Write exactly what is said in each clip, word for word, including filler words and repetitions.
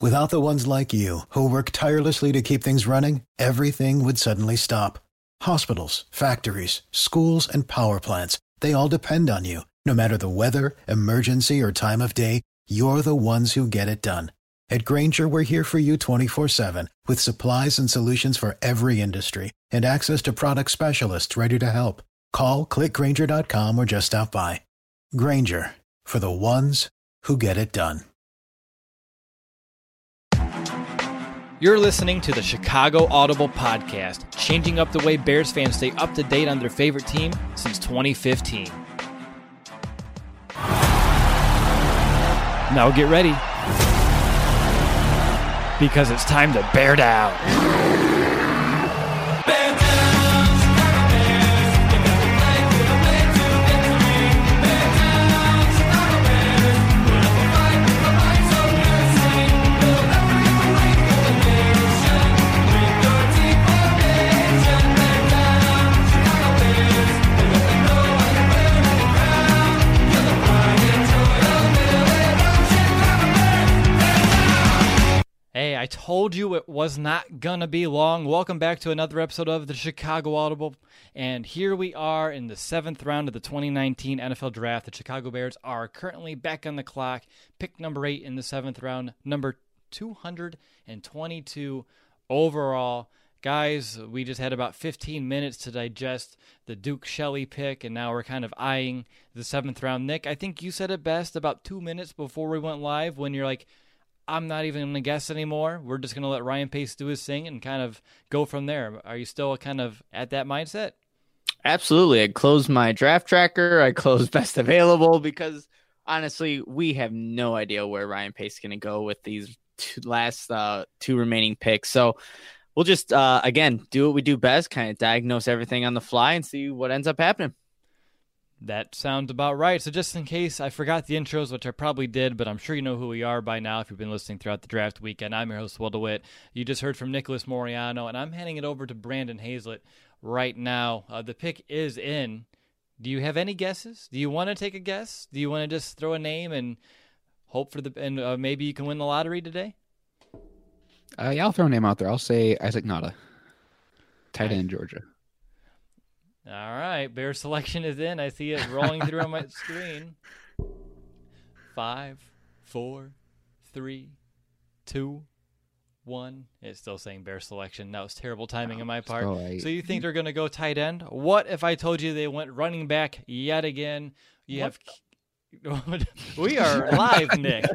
Without the ones like you, who work tirelessly to keep things running, everything would suddenly stop. Hospitals, factories, schools, and power plants, they all depend on you. No matter the weather, emergency, or time of day, you're the ones who get it done. At Grainger, we're here for you twenty-four seven, with supplies and solutions for every industry, and access to product specialists ready to help. Call, click Grainger dot com, or just stop by. Grainger, for the ones who get it done. You're listening to the Chicago Audible Podcast, changing up the way Bears fans stay up to date on their favorite team since twenty fifteen. Now get ready, because it's time to bear down. Hey, I told you it was not gonna be long. Welcome back to another episode of the Chicago Audible. And here we are in the seventh round of the twenty nineteen N F L Draft. The Chicago Bears are currently back on the clock. Pick number eight in the seventh round, number two hundred twenty-two overall. Guys, we just had about fifteen minutes to digest the Duke Shelley pick, and now we're kind of eyeing the seventh round. Nick, I think you said it best about two minutes before we went live when you're like, I'm not even going to guess anymore. We're just going to let Ryan Pace do his thing and kind of go from there. Are you still kind of at that mindset? Absolutely. I closed my draft tracker. I closed best available because, honestly, we have no idea where Ryan Pace is going to go with these two last uh, two remaining picks. So we'll just, uh, again, do what we do best, kind of diagnose everything on the fly and see what ends up happening. That sounds about right. So just in case I forgot the intros, which I probably did, but I'm sure you know who we are by now if you've been listening throughout the draft weekend. I'm your host, Will DeWitt. You just heard from Nicholas Moriano, and I'm handing it over to Brandon Hazlett right now. Uh, the pick is in. Do you have any guesses? Do you want to take a guess? Do you want to just throw a name and hope for the and uh, maybe you can win the lottery today? Uh, yeah, I'll throw a name out there. I'll say Isaac Nada, tight end, Georgia. All right, Bear selection is in. I see it rolling through on my screen. Five, four, three, two, one. It's still saying Bear selection. That was terrible timing on my part. Right. So you think they're going to go tight end? What if I told you they went running back yet again? You what? have. We are live, Nick.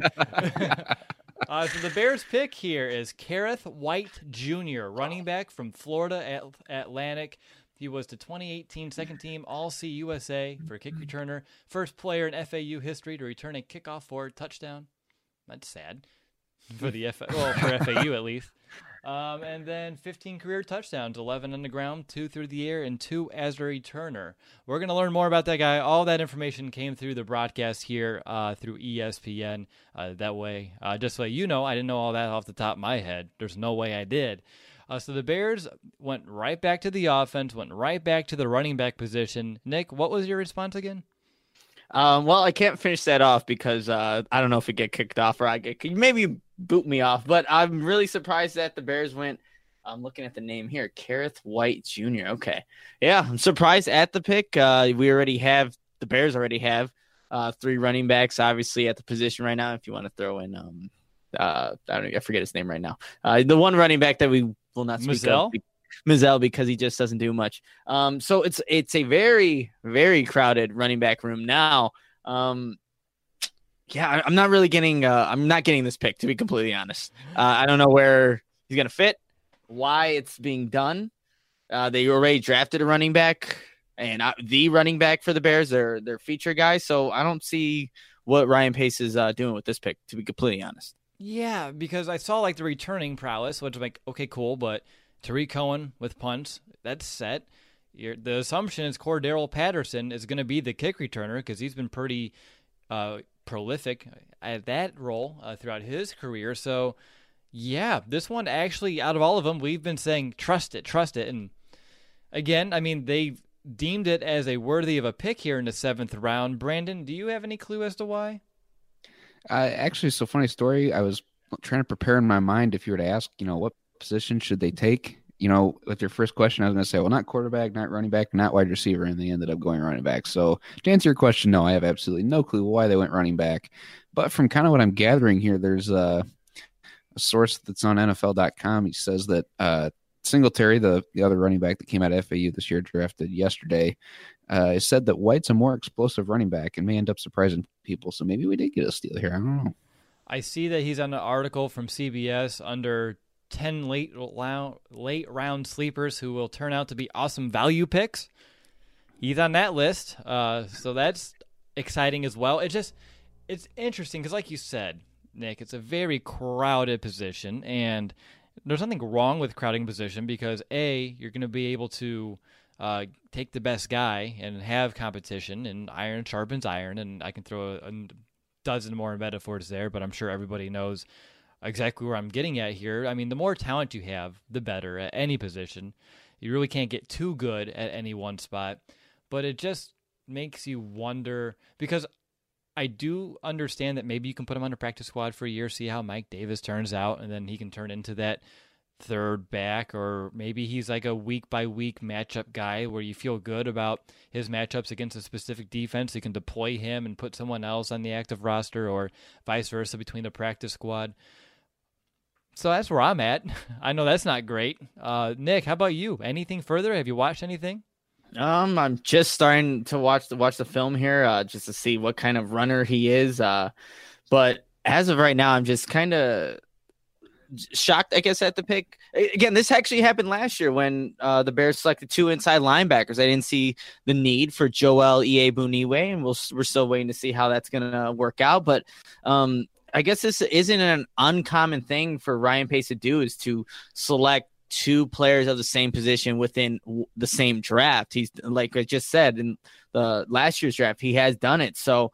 uh, so the Bears pick here is Kerrith White Junior, running back from Florida at Atlantic. He was the twenty eighteen second team All-C U S A for a kick returner. First player in F A U history to return a kickoff forward touchdown. That's sad for the F- well, for F A U at least. Um, and then fifteen career touchdowns, eleven on the ground, two through the air, and two as a returner. We're going to learn more about that guy. All that information came through the broadcast here uh, through E S P N. Uh, that way, uh, just so you know, I didn't know all that off the top of my head. There's no way I did. Uh, so the Bears went right back to the offense, went right back to the running back position. Nick, what was your response again? Um, well, I can't finish that off because uh, I don't know if it get kicked off or I get maybe boot me off. But I'm really surprised that the Bears went. I'm looking at the name here, Kerrith White Junior Okay, yeah, I'm surprised at the pick. Uh, we already have the Bears already have uh, three running backs, obviously at the position right now. If you want to throw in, um, uh, I don't, I forget his name right now. Uh, the one running back that we will not speak Mizzell? of, Mizzell, because he just doesn't do much. Um, so it's it's a very very crowded running back room now. Um, yeah, I, I'm not really getting. Uh, I'm not getting this pick, to be completely honest. Uh, I don't know where he's gonna fit, why it's being done. Uh, they already drafted a running back, and uh, the running back for the Bears, their their feature guy. So I don't see what Ryan Pace is uh, doing with this pick, to be completely honest. Yeah, because I saw like the returning prowess, which I'm like, okay, cool, but Tariq Cohen with punts, that's set. You're, the assumption is Cordero Patterson is going to be the kick returner because he's been pretty uh, prolific at that role uh, throughout his career. So, yeah, this one actually, out of all of them, we've been saying trust it, trust it. And again, I mean, they deemed it as a worthy of a pick here in the seventh round. Brandon, do you have any clue as to why? Uh, actually, so funny story. I was trying to prepare in my mind if you were to ask, you know, what position should they take? You know, with your first question, I was going to say, well, not quarterback, not running back, not wide receiver, and they ended up going running back. So to answer your question, no, I have absolutely no clue why they went running back. But from kind of what I'm gathering here, there's a, a source that's on N F L dot com. He says that uh, Singletary, the, the other running back that came out of F A U this year, drafted yesterday, uh, said that White's a more explosive running back and may end up surprising people. So maybe we did get a steal here. I don't know. I see that he's on an article from C B S under ten late late round sleepers who will turn out to be awesome value picks. He's on that list, uh, so that's exciting as well. It just it's interesting because, like you said, Nick, it's a very crowded position, and there's nothing wrong with crowding position because A, you're going to be able to uh, take the best guy and have competition, and iron sharpens iron, and I can throw a, a dozen more metaphors there, but I'm sure everybody knows exactly where I'm getting at here. I mean, the more talent you have, the better at any position. You really can't get too good at any one spot, but it just makes you wonder because I do understand that maybe you can put him on a practice squad for a year, see how Mike Davis turns out, and then he can turn into that third back, or maybe he's like a week by week matchup guy where you feel good about his matchups against a specific defense. You can deploy him and put someone else on the active roster or vice versa between the practice squad. So that's where I'm at. I know that's not great. Uh, Nick, how about you? Anything further? Have you watched anything? Um, I'm just starting to watch the watch the film here, uh, just to see what kind of runner he is. Uh, but as of right now, I'm just kind of shocked, I guess, at the pick. Again, this actually happened last year when uh, the Bears selected two inside linebackers. I didn't see the need for Joel Iyiegbuniwe, and we'll, we're still waiting to see how that's going to work out. But um, I guess this isn't an uncommon thing for Ryan Pace to do, is to select two players of the same position within the same draft. He's, like I just said, in the last year's draft, he has done it. So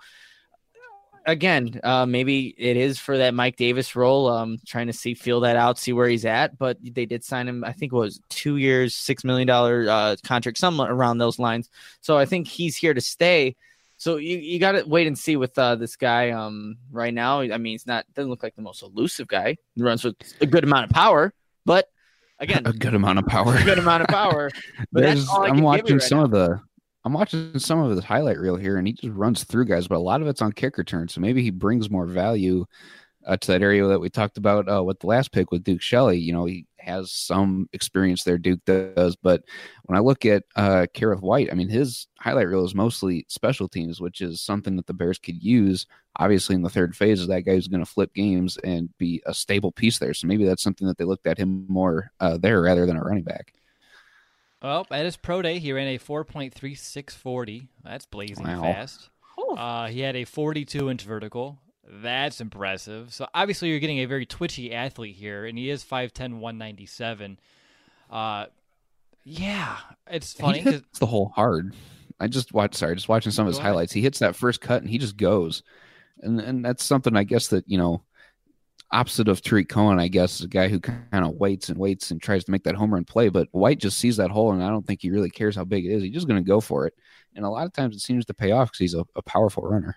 again, uh, maybe it is for that Mike Davis role, um, trying to see, feel that out, see where he's at. But they did sign him, I think it was two years, six million dollars uh, contract, somewhere around those lines. So I think he's here to stay. So you, you got to wait and see with uh, this guy um, right now. I mean, he's not, doesn't look like the most elusive guy. He runs with a good amount of power, but again, a good amount of power, a good amount of power. But that's all I I'm can watching give you right some now. of the, I'm watching some of his highlight reel here, and he just runs through guys, but a lot of it's on kick return. So maybe he brings more value uh, to that area that we talked about uh, with the last pick with Duke Shelley. You know, he has some experience there, Duke does. But when I look at uh, Kerrith Whyte, I mean, his highlight reel is mostly special teams, which is something that the Bears could use. Obviously, in the third phase, is that guy who's going to flip games and be a stable piece there. So maybe that's something that they looked at him more uh, there rather than a running back. Well, at his pro day, he ran a four point three six forty. That's blazing Wow. fast. Uh, he had a forty-two inch vertical. That's impressive. So obviously you're getting a very twitchy athlete here, and he is five ten, one ninety-seven. Uh, yeah, it's funny. He 'cause- hits the hole hard. I just watched, sorry, just watching some of his Go ahead. highlights. He hits that first cut and he just goes. And and that's something, I guess, that, you know, opposite of Tariq Cohen, I guess, is a guy who kind of waits and waits and tries to make that home run play. But White just sees that hole, and I don't think he really cares how big it is. He's just going to go for it. And a lot of times it seems to pay off because he's a, a powerful runner.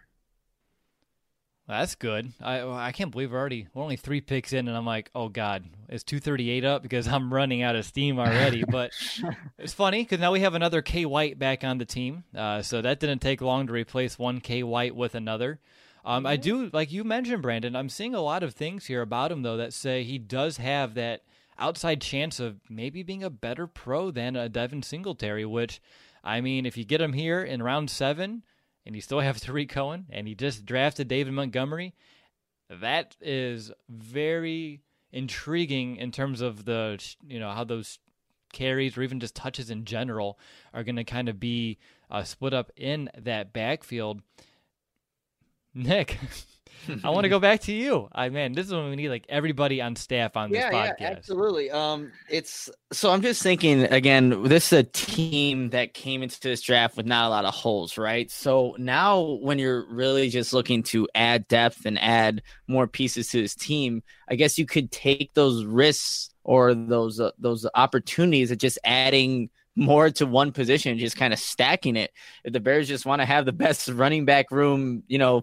That's good. I I can't believe we're already we're only three picks in, and I'm like, oh god, is two thirty-eight up because I'm running out of steam already. But it's funny because now we have another K White back on the team, uh, so that didn't take long to replace one K White with another. Um, I do, like you mentioned, Brandon. I'm seeing a lot of things here about him though that say he does have that outside chance of maybe being a better pro than a Devin Singletary. Which, I mean, if you get him here in round seven, and you still have Tariq Cohen, and he just drafted David Montgomery, that is very intriguing in terms of the, you know, how those carries or even just touches in general are going to kind of be uh, split up in that backfield. Nick, I want to go back to you. I man, this is when we need like everybody on staff on this yeah, podcast. Yeah, absolutely. Um, it's so I'm just thinking again. This is a team that came into this draft with not a lot of holes, right? So now, when you're really just looking to add depth and add more pieces to this team, I guess you could take those risks or those uh, those opportunities of just adding more to one position, just kind of stacking it. If the Bears just want to have the best running back room, you know,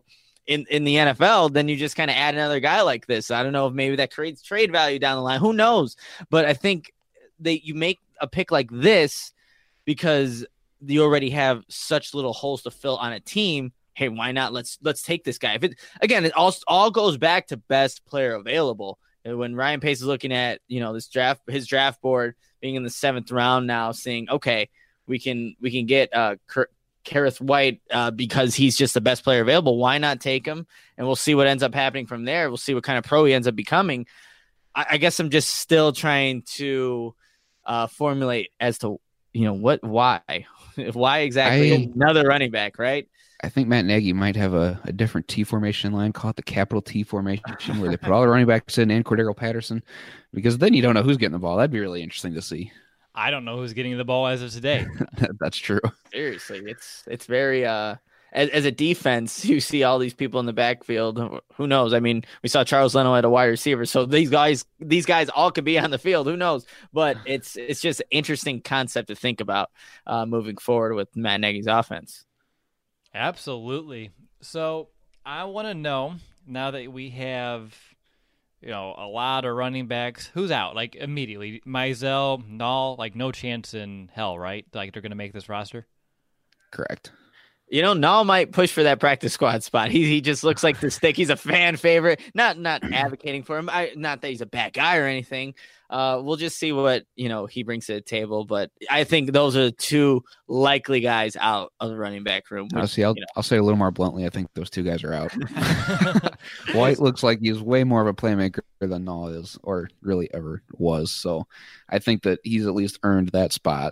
in, in the N F L, then you just kind of add another guy like this. I don't know if maybe that creates trade value down the line. Who knows? But I think that you make a pick like this because you already have such little holes to fill on a team. Hey, why not? Let's let's take this guy. If it again, it all all goes back to best player available. And when Ryan Pace is looking at, you know, this draft, his draft board being in the seventh round now, saying, okay, we can we can get uh Kareth White uh, because he's just the best player available. Why not take him? And we'll see what ends up happening from there. We'll see what kind of pro he ends up becoming. I, I guess I'm just still trying to uh, formulate as to, you know, what, why, why exactly I, another running back, right? I think Matt Nagy might have a, a different T formation line, call it the capital T formation, where they put all the running backs in and Cordero Patterson, because then you don't know who's getting the ball. That'd be really interesting to see. I don't know who's getting the ball as of today. That's true. Seriously, it's it's very uh as, as a defense, you see all these people in the backfield. Who knows? I mean, we saw Charles Leno at a wide receiver, so these guys these guys all could be on the field. Who knows? But it's it's just an interesting concept to think about uh, moving forward with Matt Nagy's offense. Absolutely. So I want to know, now that we have, you know, a lot of running backs, who's out? Like, immediately. Mizell, Nall, like, no chance in hell, right? Like, they're going to make this roster? Correct. You know, Nall might push for that practice squad spot. He he just looks like the stick. He's a fan favorite. Not not advocating for him. I, not that he's a bad guy or anything. Uh, we'll just see what, you know, he brings to the table. But I think those are the two likely guys out of the running back room. Which, I'll, see, I'll, you know. I'll say a little more bluntly, I think those two guys are out. White looks like he's way more of a playmaker than Nall is, or really ever was. So I think that he's at least earned that spot.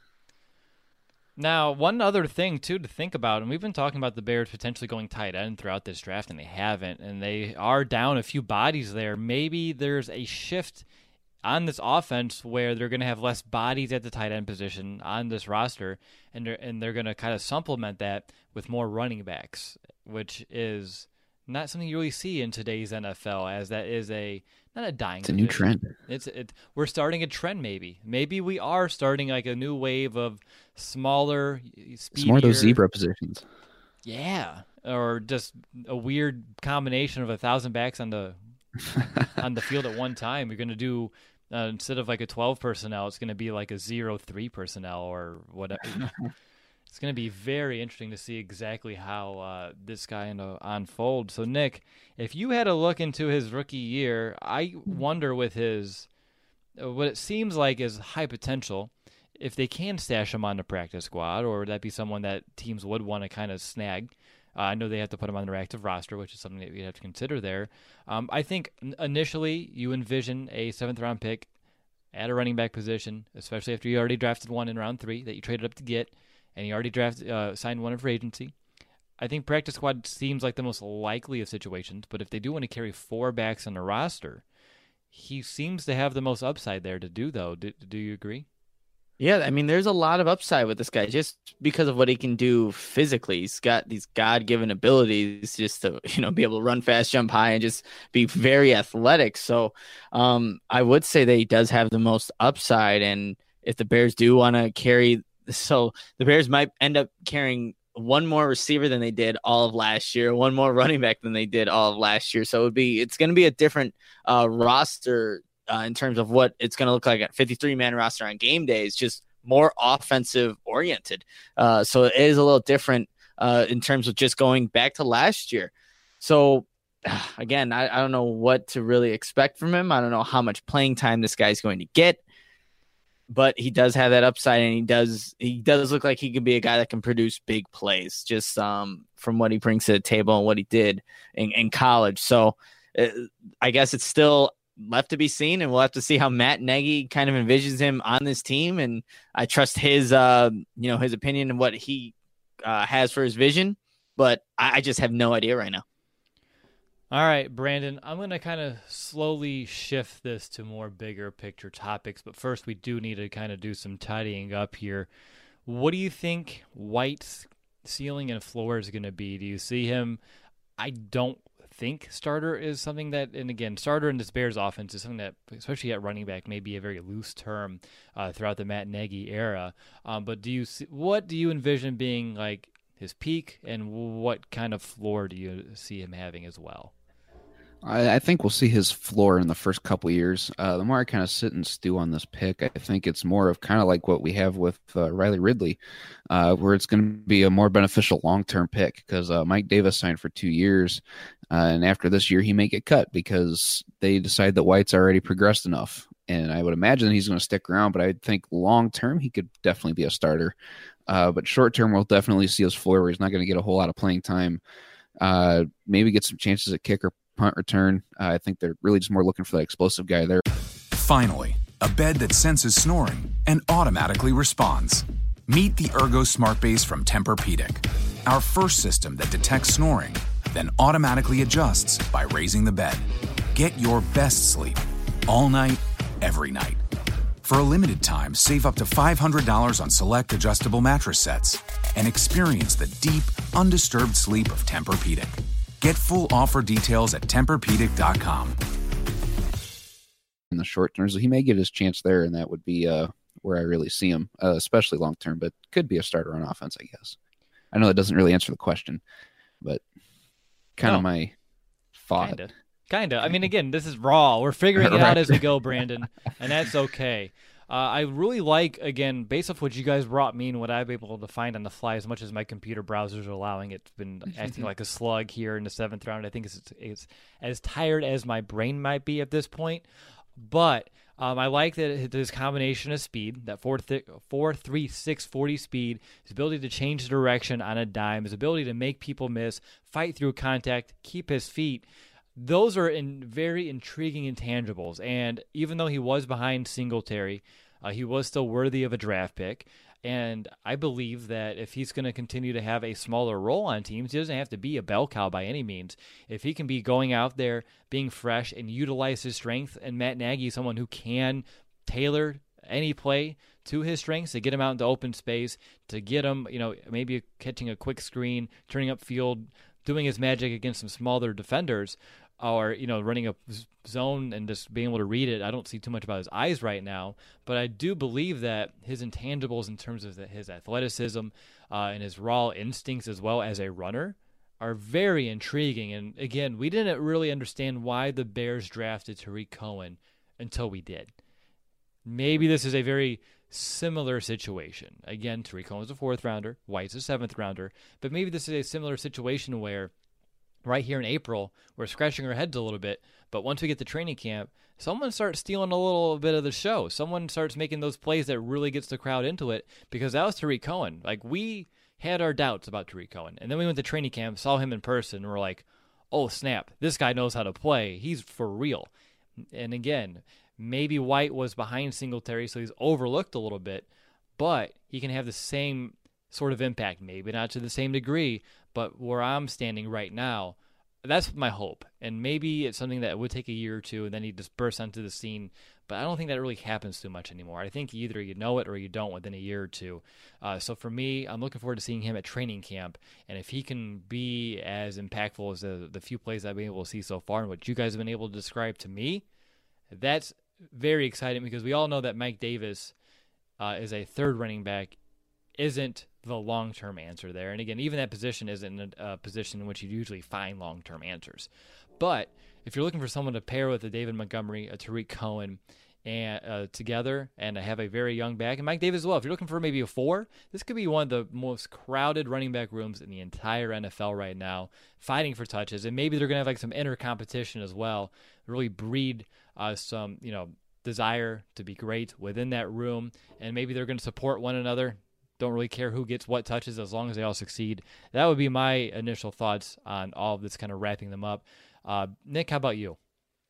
Now, one other thing, too, to think about, and we've been talking about the Bears potentially going tight end throughout this draft, and they haven't, and they are down a few bodies there. Maybe there's a shift on this offense where they're going to have less bodies at the tight end position on this roster, and they're, and they're going to kind of supplement that with more running backs, which is not something you really see in today's N F L, as that is a not a dying. It's a new position. trend. It's it. We're starting a trend. Maybe, maybe we are starting like a new wave of smaller, speedier. It's more of those zebra positions. Yeah, or just a weird combination of a thousand backs on the on the field at one time. You're going to do uh, instead of like a twelve personnel, it's going to be like a zero three personnel or whatever. It's going to be very interesting to see exactly how uh, this guy uh, unfolds. So, Nick, if you had a look into his rookie year, I wonder with his uh, what it seems like is high potential, if they can stash him on the practice squad, or would that be someone that teams would want to kind of snag? Uh, I know they have to put him on their active roster, which is something that we have to consider there. Um, I think initially you envision a seventh-round pick at a running back position, especially after you already drafted one in round three that you traded up to get, and you already drafted uh, signed one in free agency. I think practice squad seems like the most likely of situations, but if they do want to carry four backs on the roster, he seems to have the most upside there to do, though. Do, do you agree? Yeah, I mean, there's a lot of upside with this guy just because of what he can do physically. He's got these God-given abilities just to, you know, be able to run fast, jump high, and just be very athletic. So um, I would say that he does have the most upside. And if the Bears do want to carry, so the Bears might end up carrying one more receiver than they did all of last year, one more running back than they did all of last year. So it would be, it's going to be a different uh, roster Uh, in terms of what it's going to look like at fifty-three man roster on game days, just more offensive oriented. Uh, so it is a little different uh, in terms of just going back to last year. So again, I, I don't know what to really expect from him. I don't know how much playing time this guy's going to get, but he does have that upside, and he does, he does look like he could be a guy that can produce big plays just um, from what he brings to the table and what he did in, in college. So uh, I guess it's still left to be seen, and we'll have to see how Matt Nagy kind of envisions him on this team. And I trust his, uh, you know, his opinion and what he uh, has for his vision, but I, I just have no idea right now. All right, Brandon, I'm going to kind of slowly shift this to more bigger picture topics, but first we do need to kind of do some tidying up here. What do you think White's ceiling and floor is going to be? Do you see him? I don't think starter is something that, and again, starter in this Bears offense is something that, especially at running back, may be a very loose term uh, throughout the Matt Nagy era. Um, but do you see, what do you envision being like his peak, and what kind of floor do you see him having as well? I, I think we'll see his floor in the first couple years. Uh, the more I kind of sit and stew on this pick, I think it's more of kind of like what we have with uh, Riley Ridley, uh, where it's going to be a more beneficial long-term pick because uh, Mike Davis signed for two years, uh, and after this year, he may get cut because they decide that White's already progressed enough. And I would imagine he's going to stick around, but I think long-term, he could definitely be a starter. Uh, but short-term, we'll definitely see his floor where he's not going to get a whole lot of playing time. Uh, maybe get some chances at kicker, punt return. Uh, I think they're really just more looking for that explosive guy there. Finally, a bed that senses snoring and automatically responds. Meet the Ergo Smart Base from Tempur-Pedic, our first system that detects snoring, then automatically adjusts by raising the bed. Get your best sleep all night, every night. For a limited time, save up to five hundred dollars on select adjustable mattress sets and experience the deep, undisturbed sleep of Tempur-Pedic. Get full offer details at Tempur Pedic dot com. In the short term, so he may get his chance there, and that would be uh, where I really see him, uh, especially long term, but could be a starter on offense, I guess. I know that doesn't really answer the question, but kind No. of my thought. Kinda. Kinda. I mean, again, this is raw. We're figuring it Right. out as we go, Brandon, and that's okay. Uh, I really like, again, based off what you guys brought me and what I've been able to find on the fly, as much as my computer browsers are allowing, it's been acting like a slug here in the seventh round. I think it's, it's as tired as my brain might be at this point. But um, I like that his combination of speed, that four, th- four three six forty speed, his ability to change the direction on a dime, his ability to make people miss, fight through contact, keep his feet. Those are in very intriguing intangibles. And even though he was behind Singletary, uh, he was still worthy of a draft pick. And I believe that if he's going to continue to have a smaller role on teams, he doesn't have to be a bell cow by any means. If he can be going out there, being fresh, and utilize his strength, and Matt Nagy is someone who can tailor any play to his strengths to get him out into open space, to get him, you know, maybe catching a quick screen, turning up field, doing his magic against some smaller defenders, or, you know, running a zone and just being able to read it. I don't see too much about his eyes right now, but I do believe that his intangibles in terms of the, his athleticism uh, and his raw instincts as well as a runner are very intriguing. And again, we didn't really understand why the Bears drafted Tariq Cohen until we did. Maybe this is a very similar situation. Again, Tariq Cohen's a fourth rounder, White's a seventh rounder, but maybe this is a similar situation where right here in April, we're scratching our heads a little bit, but once we get to training camp, someone starts stealing a little bit of the show. Someone starts making those plays that really gets the crowd into it, because that was Tariq Cohen. Like, we had our doubts about Tariq Cohen, and then we went to training camp, saw him in person, and we're like, oh, snap, this guy knows how to play. He's for real. And again, maybe White was behind Singletary, so he's overlooked a little bit, but he can have the same sort of impact, maybe not to the same degree, but where I'm standing right now, that's my hope. And maybe it's something that would take a year or two, and then he just bursts onto the scene. But I don't think that really happens too much anymore. I think either you know it or you don't within a year or two. Uh, so for me, I'm looking forward to seeing him at training camp. And if he can be as impactful as the, the few plays I've been able to see so far and what you guys have been able to describe to me, that's very exciting, because we all know that Mike Davis uh, is a third running back, isn't the long-term answer there. And again, even that position isn't a, a position in which you usually find long-term answers. But if you're looking for someone to pair with a David Montgomery, a Tariq Cohen, and uh, together, and have a very young back, and Mike Davis as well, if you're looking for maybe a four, this could be one of the most crowded running back rooms in the entire N F L right now, fighting for touches. And maybe they're going to have like some inner competition as well, really breed uh, some, you know, desire to be great within that room. And maybe they're going to support one another. Don't really care who gets what touches as long as they all succeed. That would be my initial thoughts on all of this, kind of wrapping them up. Uh, Nick, how about you?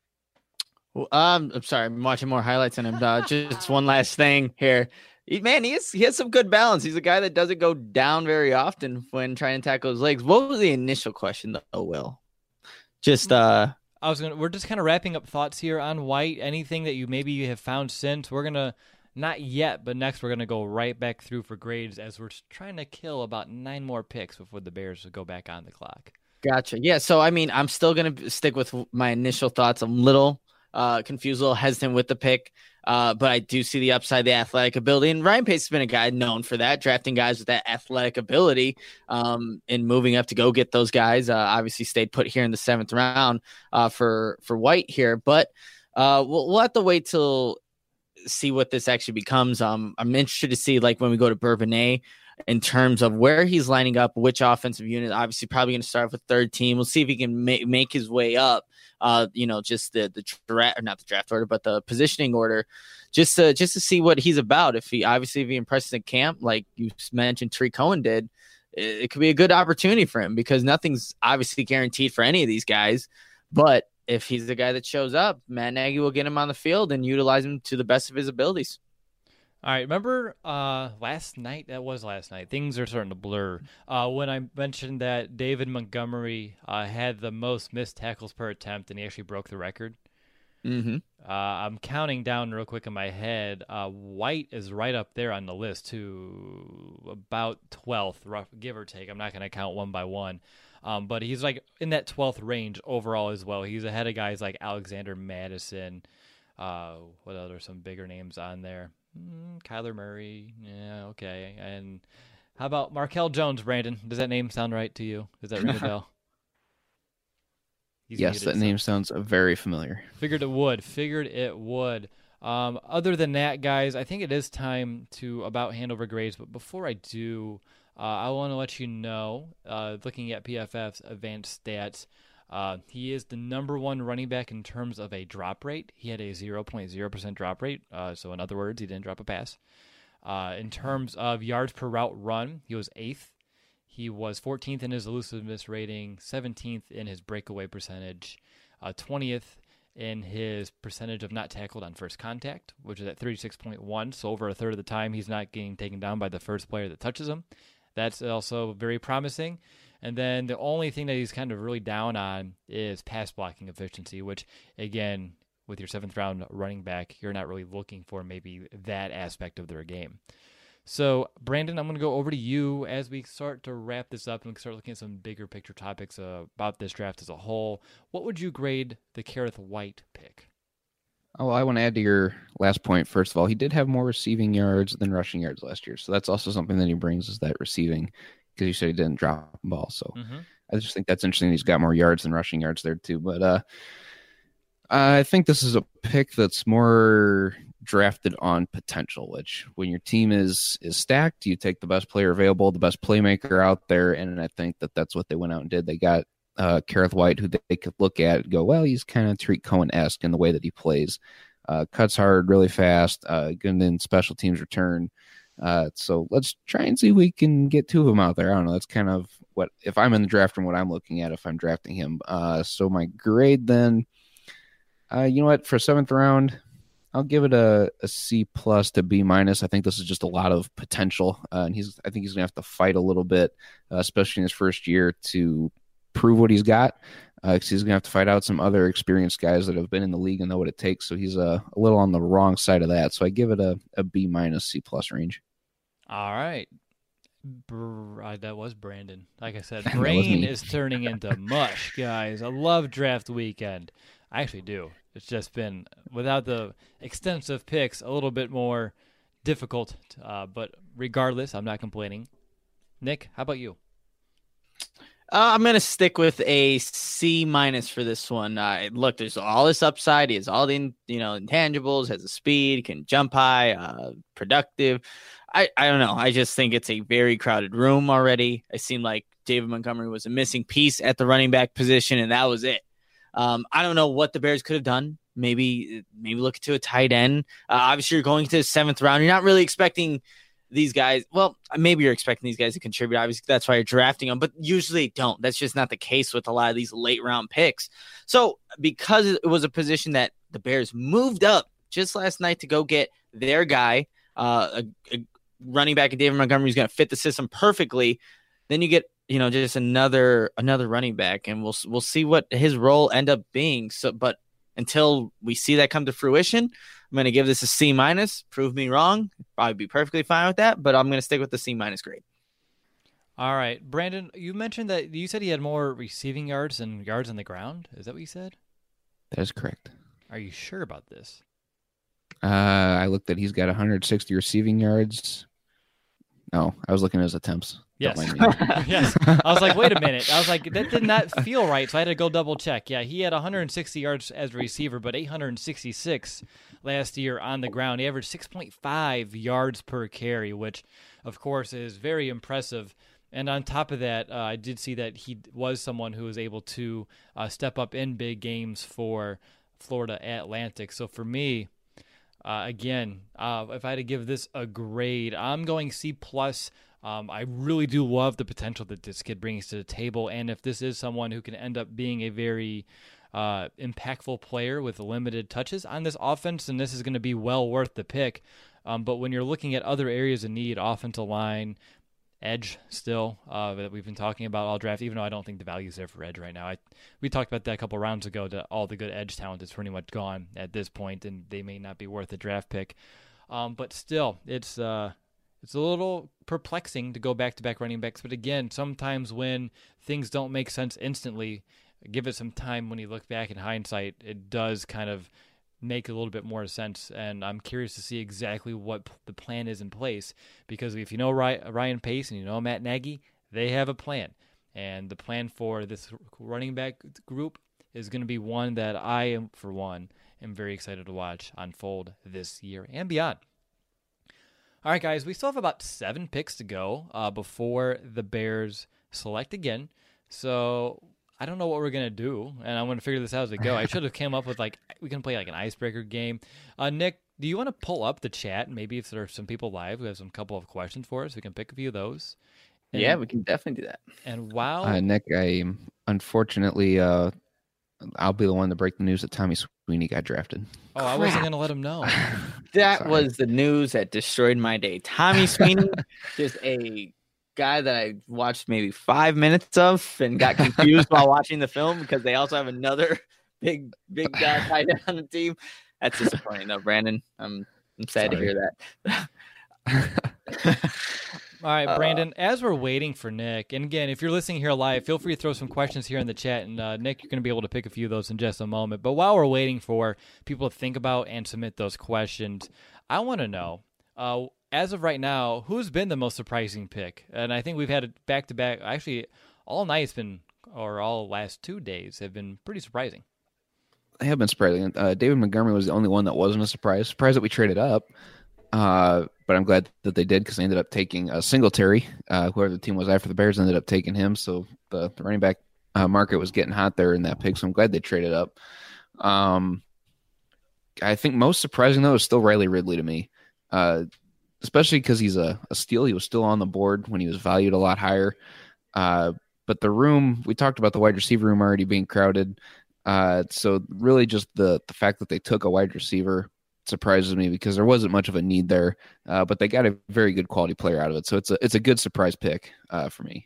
Well, um, I'm sorry, I'm watching more highlights on him. Uh, just one last thing here. He, man, he has, he has some good balance. He's a guy that doesn't go down very often when trying to tackle his legs. What was the initial question, though, Will? Just, uh... I was gonna. We're just kind of wrapping up thoughts here on White. Anything that you maybe you have found since. We're gonna... Not yet, but next we're going to go right back through for grades as we're trying to kill about nine more picks before the Bears go back on the clock. Gotcha. Yeah, so, I mean, I'm still going to stick with my initial thoughts. I'm a little uh, confused, a little hesitant with the pick. Uh, but I do see the upside, the athletic ability. And Ryan Pace has been a guy known for that, drafting guys with that athletic ability um, and moving up to go get those guys. Uh, obviously stayed put here in the seventh round uh, for, for White here. But uh, we'll, we'll have to wait till see what this actually becomes. Um, I'm interested to see, like, when we go to Bourbonnais, in terms of where he's lining up, which offensive unit. Obviously, probably going to start with third team. We'll see if he can ma- make his way up. Uh, you know, just the the draft, or not the draft order, but the positioning order, just to just to see what he's about. If he obviously if he impresses in camp, like you mentioned, Tariq Cohen did, it, it could be a good opportunity for him because nothing's obviously guaranteed for any of these guys. But if he's the guy that shows up, Matt Nagy will get him on the field and utilize him to the best of his abilities. All right, remember uh, last night? That was last night. Things are starting to blur. Uh, when I mentioned that David Montgomery uh, had the most missed tackles per attempt, and he actually broke the record. Mm-hmm. Uh, I'm counting down real quick in my head. Uh, White is right up there on the list, to about twelfth, rough, give or take. I'm not going to count one by one. Um, but he's like in that twelfth range overall as well. He's ahead of guys like Alexander Madison. Uh, what other some bigger names on there? Mm, Kyler Murray, yeah, okay. And how about Markel Jones, Brandon? Does that name sound right to you? Does that ring a bell? He's yes, muted, that so. name sounds very familiar. Figured it would. Figured it would. Um, other than that, guys, I think it is time to about hand over grades. But before I do, uh, I want to let you know, uh, looking at P F F's advanced stats, Uh, he is the number one running back in terms of a drop rate. He had a zero point zero percent drop rate. Uh, so in other words, he didn't drop a pass. Uh, in terms of yards per route run, he was eighth. He was fourteenth in his elusiveness rating, seventeenth in his breakaway percentage, uh, twentieth in his percentage of not tackled on first contact, which is at thirty-six point one. So over a third of the time, he's not getting taken down by the first player that touches him. That's also very promising. And then the only thing that he's kind of really down on is pass blocking efficiency, which, again, with your seventh round running back, you're not really looking for maybe that aspect of their game. So, Brandon, I'm going to go over to you as we start to wrap this up and start looking at some bigger picture topics uh, about this draft as a whole. What would you grade the Kerrith White pick? Oh, I want to add to your last point. First of all, he did have more receiving yards than rushing yards last year. So that's also something that he brings, is that receiving, because you said he didn't drop the ball. So mm-hmm. I just think that's interesting. He's got more yards than rushing yards there too. But uh, I think this is a pick that's more drafted on potential, which when your team is is stacked, you take the best player available, the best playmaker out there. And I think that that's what they went out and did. They got uh, Kerrith White, who they could look at and go, well, he's kind of Tariq Cohen-esque in the way that he plays. Uh, cuts hard, really fast, uh, good in special teams return. Uh, so let's try and see if we can get two of them out there. I don't know. That's kind of what, if I'm in the draft room, what I'm looking at if I'm drafting him. Uh, so my grade then, uh, you know what, for seventh round, I'll give it a, a C plus to B minus. I think this is just a lot of potential. Uh, and he's, I think he's gonna have to fight a little bit, uh, especially in his first year, to prove what he's got. Uh, cause he's gonna have to fight out some other experienced guys that have been in the league and know what it takes. So he's a, a little on the wrong side of that. So I give it a, a B minus C plus range. All right. Br- that was Brandon. Like I said, brain is turning into mush, guys. I love draft weekend. I actually do. It's just been, without the extensive picks, a little bit more difficult. Uh, but regardless, I'm not complaining. Nick, how about you? Uh, I'm going to stick with a C minus for this one. Uh, look, there's all this upside. He has all the, you know, intangibles, has a speed, can jump high, uh, productive. I, I don't know. I just think it's a very crowded room already. It seemed like David Montgomery was a missing piece at the running back position, and that was it. Um, I don't know what the Bears could have done. Maybe maybe look to a tight end. Uh, obviously, you're going to the seventh round. You're not really expecting these guys. Well, maybe you're expecting these guys to contribute. Obviously, that's why you're drafting them, but usually don't. That's just not the case with a lot of these late round picks. So because it was a position that the Bears moved up just last night to go get their guy, uh, a, a running back, and David Montgomery is going to fit the system perfectly, then you get, you know, just another another running back, and we'll we'll see what his role end up being. So, but until we see that come to fruition, I'm going to give this a C minus. Prove me wrong. Probably be perfectly fine with that, but I'm going to stick with the C minus grade. All right, Brandon, you mentioned that you said he had more receiving yards than yards on the ground. Is that what you said? That is correct. Are you sure about this? Uh, I looked at he's got one hundred sixty receiving yards. No, I was looking at his attempts. Yes. Yes. I was like, wait a minute. I was like, that did not feel right, so I had to go double check. Yeah, he had one hundred sixty yards as a receiver, but eight hundred sixty-six last year on the ground. He averaged six point five yards per carry, which, of course, is very impressive. And on top of that, uh, I did see that he was someone who was able to uh, step up in big games for Florida Atlantic. So for me, uh, again, uh, if I had to give this a grade, I'm going C plus. Um, I really do love the potential that this kid brings to the table, and if this is someone who can end up being a very uh, impactful player with limited touches on this offense, then this is going to be well worth the pick. Um, but when you're looking at other areas of need, offensive line, edge still, uh, that we've been talking about all draft, even though I don't think the value is there for edge right now. I, we talked about that a couple rounds ago, that all the good edge talent is pretty much gone at this point, and they may not be worth a draft pick. Um, but still, it's... Uh, It's a little perplexing to go back-to-back running backs, but again, sometimes when things don't make sense instantly, give it some time. When you look back in hindsight, it does kind of make a little bit more sense, and I'm curious to see exactly what the plan is in place, because if you know Ryan Pace and you know Matt Nagy, they have a plan, and the plan for this running back group is going to be one that I, am, for one, am very excited to watch unfold this year and beyond. All right, guys, we still have about seven picks to go uh, before the Bears select again. So I don't know what we're going to do, and I'm going to figure this out as we go. I should have came up with, like, we can play, like, an icebreaker game. Uh, Nick, do you want to pull up the chat? Maybe if there are some people live who have some couple of questions for us, we can pick a few of those. And, yeah, we can definitely do that. And wow. Uh, Nick, I unfortunately, uh, I'll be the one to break the news that Tommy Sweeney got drafted. Oh, I wasn't going to let him know. That Sorry. was the news that destroyed my day. Tommy Sweeney, just a guy that I watched maybe five minutes of and got confused while watching the film because they also have another big, big guy tight end on the team. That's disappointing, though, Brandon. I'm, I'm sad Sorry. to hear that. All right, Brandon, uh, as we're waiting for Nick, and again, if you're listening here live, feel free to throw some questions here in the chat, and uh, Nick, you're going to be able to pick a few of those in just a moment. But while we're waiting for people to think about and submit those questions, I want to know, uh, as of right now, who's been the most surprising pick? And I think we've had it back-to-back. Actually, all night's been, or all last two days have been pretty surprising. They have been surprising. Uh, David Montgomery was the only one that wasn't a surprise. Surprised that we traded up. Uh, but I'm glad that they did because they ended up taking uh, Singletary. Uh, whoever the team was after the Bears ended up taking him. So the, the running back uh, market was getting hot there in that pick. So I'm glad they traded up. Um, I think most surprising, though, is still Riley Ridley to me, uh, especially because he's a, a steal. He was still on the board when he was valued a lot higher. Uh, but the room, we talked about the wide receiver room already being crowded. Uh, so really just the, the fact that they took a wide receiver surprises me because there wasn't much of a need there, uh, but they got a very good quality player out of it. So it's a it's a good surprise pick uh, for me.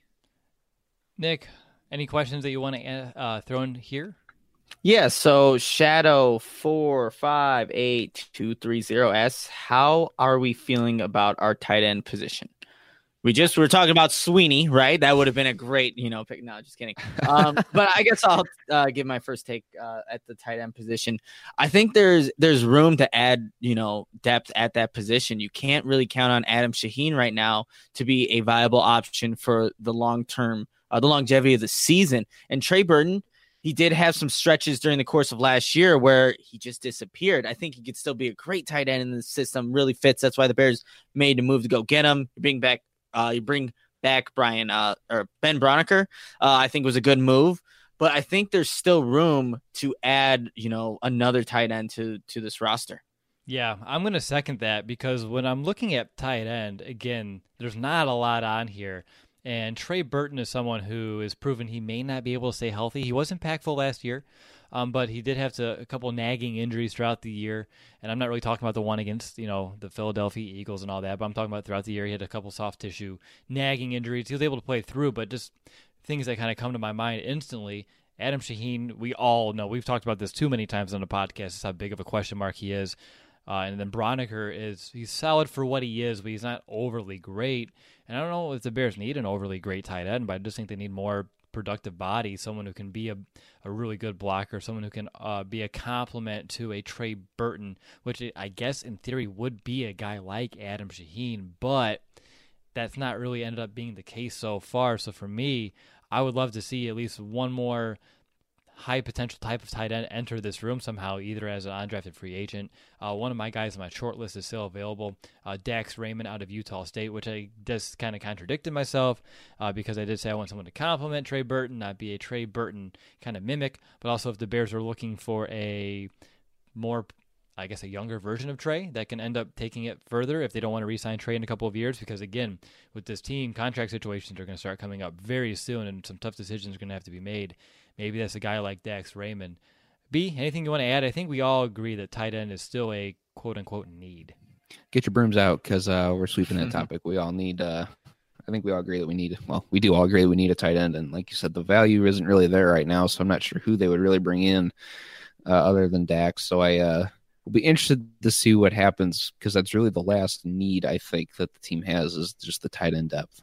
Nick, any questions that you want to uh, throw in here? Yeah, so Shadow four five eight two three zero asks, how are we feeling about our tight end position? We just were talking about Sweeney, right? That would have been a great, you know, pick. No, just kidding. Um, but I guess I'll uh, give my first take uh, at the tight end position. I think there's there's room to add, you know, depth at that position. You can't really count on Adam Shaheen right now to be a viable option for the long term, uh, the longevity of the season. And Trey Burton, he did have some stretches during the course of last year where he just disappeared. I think he could still be a great tight end in the system. Really fits. That's why the Bears made the move to go get him, bring back. Uh, you bring back Brian uh, or Ben Broniker, uh, I think was a good move, but I think there's still room to add, you know, another tight end to to this roster. Yeah, I'm going to second that because when I'm looking at tight end, again, there's not a lot on here. And Trey Burton is someone who is proven he may not be able to stay healthy. He was impactful last year, um, but he did have to, a couple nagging injuries throughout the year. And I'm not really talking about the one against, you know, the Philadelphia Eagles and all that, but I'm talking about throughout the year. He had a couple soft tissue nagging injuries. He was able to play through, but just things that kind of come to my mind instantly. Adam Shaheen, we all know, we've talked about this too many times on the podcast, just how big of a question mark he is. Uh, and then Broniker is, he's solid for what he is, but he's not overly great. And I don't know if the Bears need an overly great tight end, but I just think they need more productive body, someone who can be a, a really good blocker, someone who can uh, be a complement to a Trey Burton, which I guess in theory would be a guy like Adam Shaheen, but that's not really ended up being the case so far. So for me, I would love to see at least one more high potential type of tight end enter this room somehow, either as an undrafted free agent. Uh, one of my guys on my short list is still available, uh, Dax Raymond out of Utah State, which I just kind of contradicted myself uh, because I did say I want someone to complement Trey Burton, not be a Trey Burton kind of mimic, but also if the Bears are looking for a more, I guess, a younger version of Trey that can end up taking it further if they don't want to re-sign Trey in a couple of years, because again, with this team, contract situations are going to start coming up very soon and some tough decisions are going to have to be made. Maybe that's a guy like Dax Raymond. B, anything you want to add? I think we all agree that tight end is still a quote-unquote need. Get your brooms out because uh, we're sweeping that topic. We all need, uh, I think we all agree that we need, well, we do all agree that we need a tight end. And like you said, the value isn't really there right now, so I'm not sure who they would really bring in uh, other than Dax. So I uh, will be interested to see what happens because that's really the last need, I think, that the team has is just the tight end depth.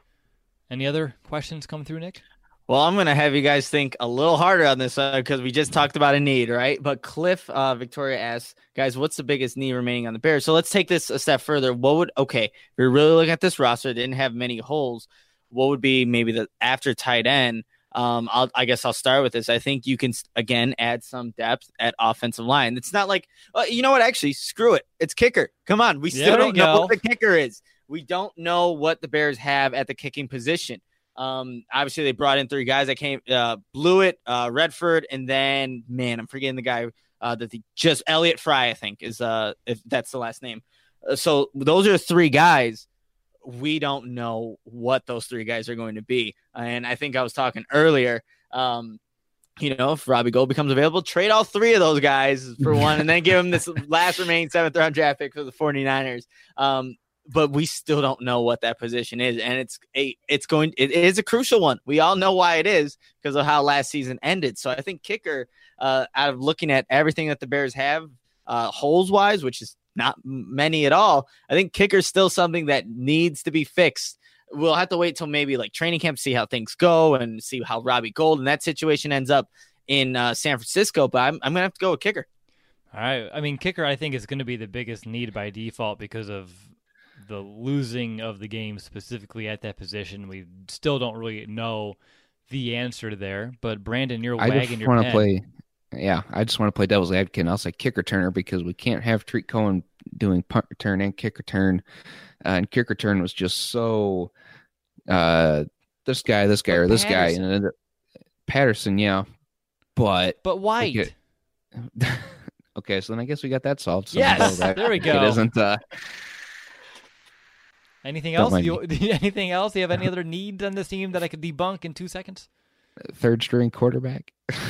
Any other questions come through, Nick? Well, I'm going to have you guys think a little harder on this because uh, we just talked about a need, right? But Cliff uh, Victoria asks, guys, what's the biggest need remaining on the Bears? So let's take this a step further. What would, okay, if you're really looking at this roster, it didn't have many holes. What would be maybe the after tight end? Um, I'll, I guess I'll start with this. I think you can, again, add some depth at offensive line. It's not like, uh, you know what, actually, screw it. It's kicker. Come on. We still There we don't know go. what the kicker is. We don't know what the Bears have at the kicking position. Um, obviously they brought in three guys that came, uh, Blewett, uh, Redford, and then, man, I'm forgetting the guy, uh, that the just Elliott Fry, I think is, uh, if that's the last name. Uh, so those are three guys. We don't know what those three guys are going to be. And I think I was talking earlier, um, you know, if Robbie Gould becomes available, trade all three of those guys for one, and then give him this last remaining seventh round draft pick for the 49ers. Um, But we still don't know what that position is, and it's a it's going it is a crucial one. We all know why it is because of how last season ended. So I think kicker, uh, out of looking at everything that the Bears have, uh, holes wise, which is not many at all, I think kicker is still something that needs to be fixed. We'll have to wait till maybe like training camp, see how things go, and see how Robbie Gould and that situation ends up in uh, San Francisco. But I'm I'm gonna have to go with kicker. All right. I mean, kicker, I think, is going to be the biggest need by default because of the losing of the game specifically at that position. We still don't really know the answer there, but Brandon, you're I wagging just your want to pen. play. Yeah, I just want to play devil's advocate. And I'll say kick returner because we can't have Treat Cohen doing punt return and kick return. Uh, and kick return was just so uh, this guy, this guy, But or this Patterson. guy, and then Patterson, yeah, but But White. Okay. Okay, so then I guess we got that solved. So Yes, that there we go. It isn't. Uh, Anything Don't else? mind You, anything else? Do you have any other needs on this team that I could debunk in two seconds? third string quarterback.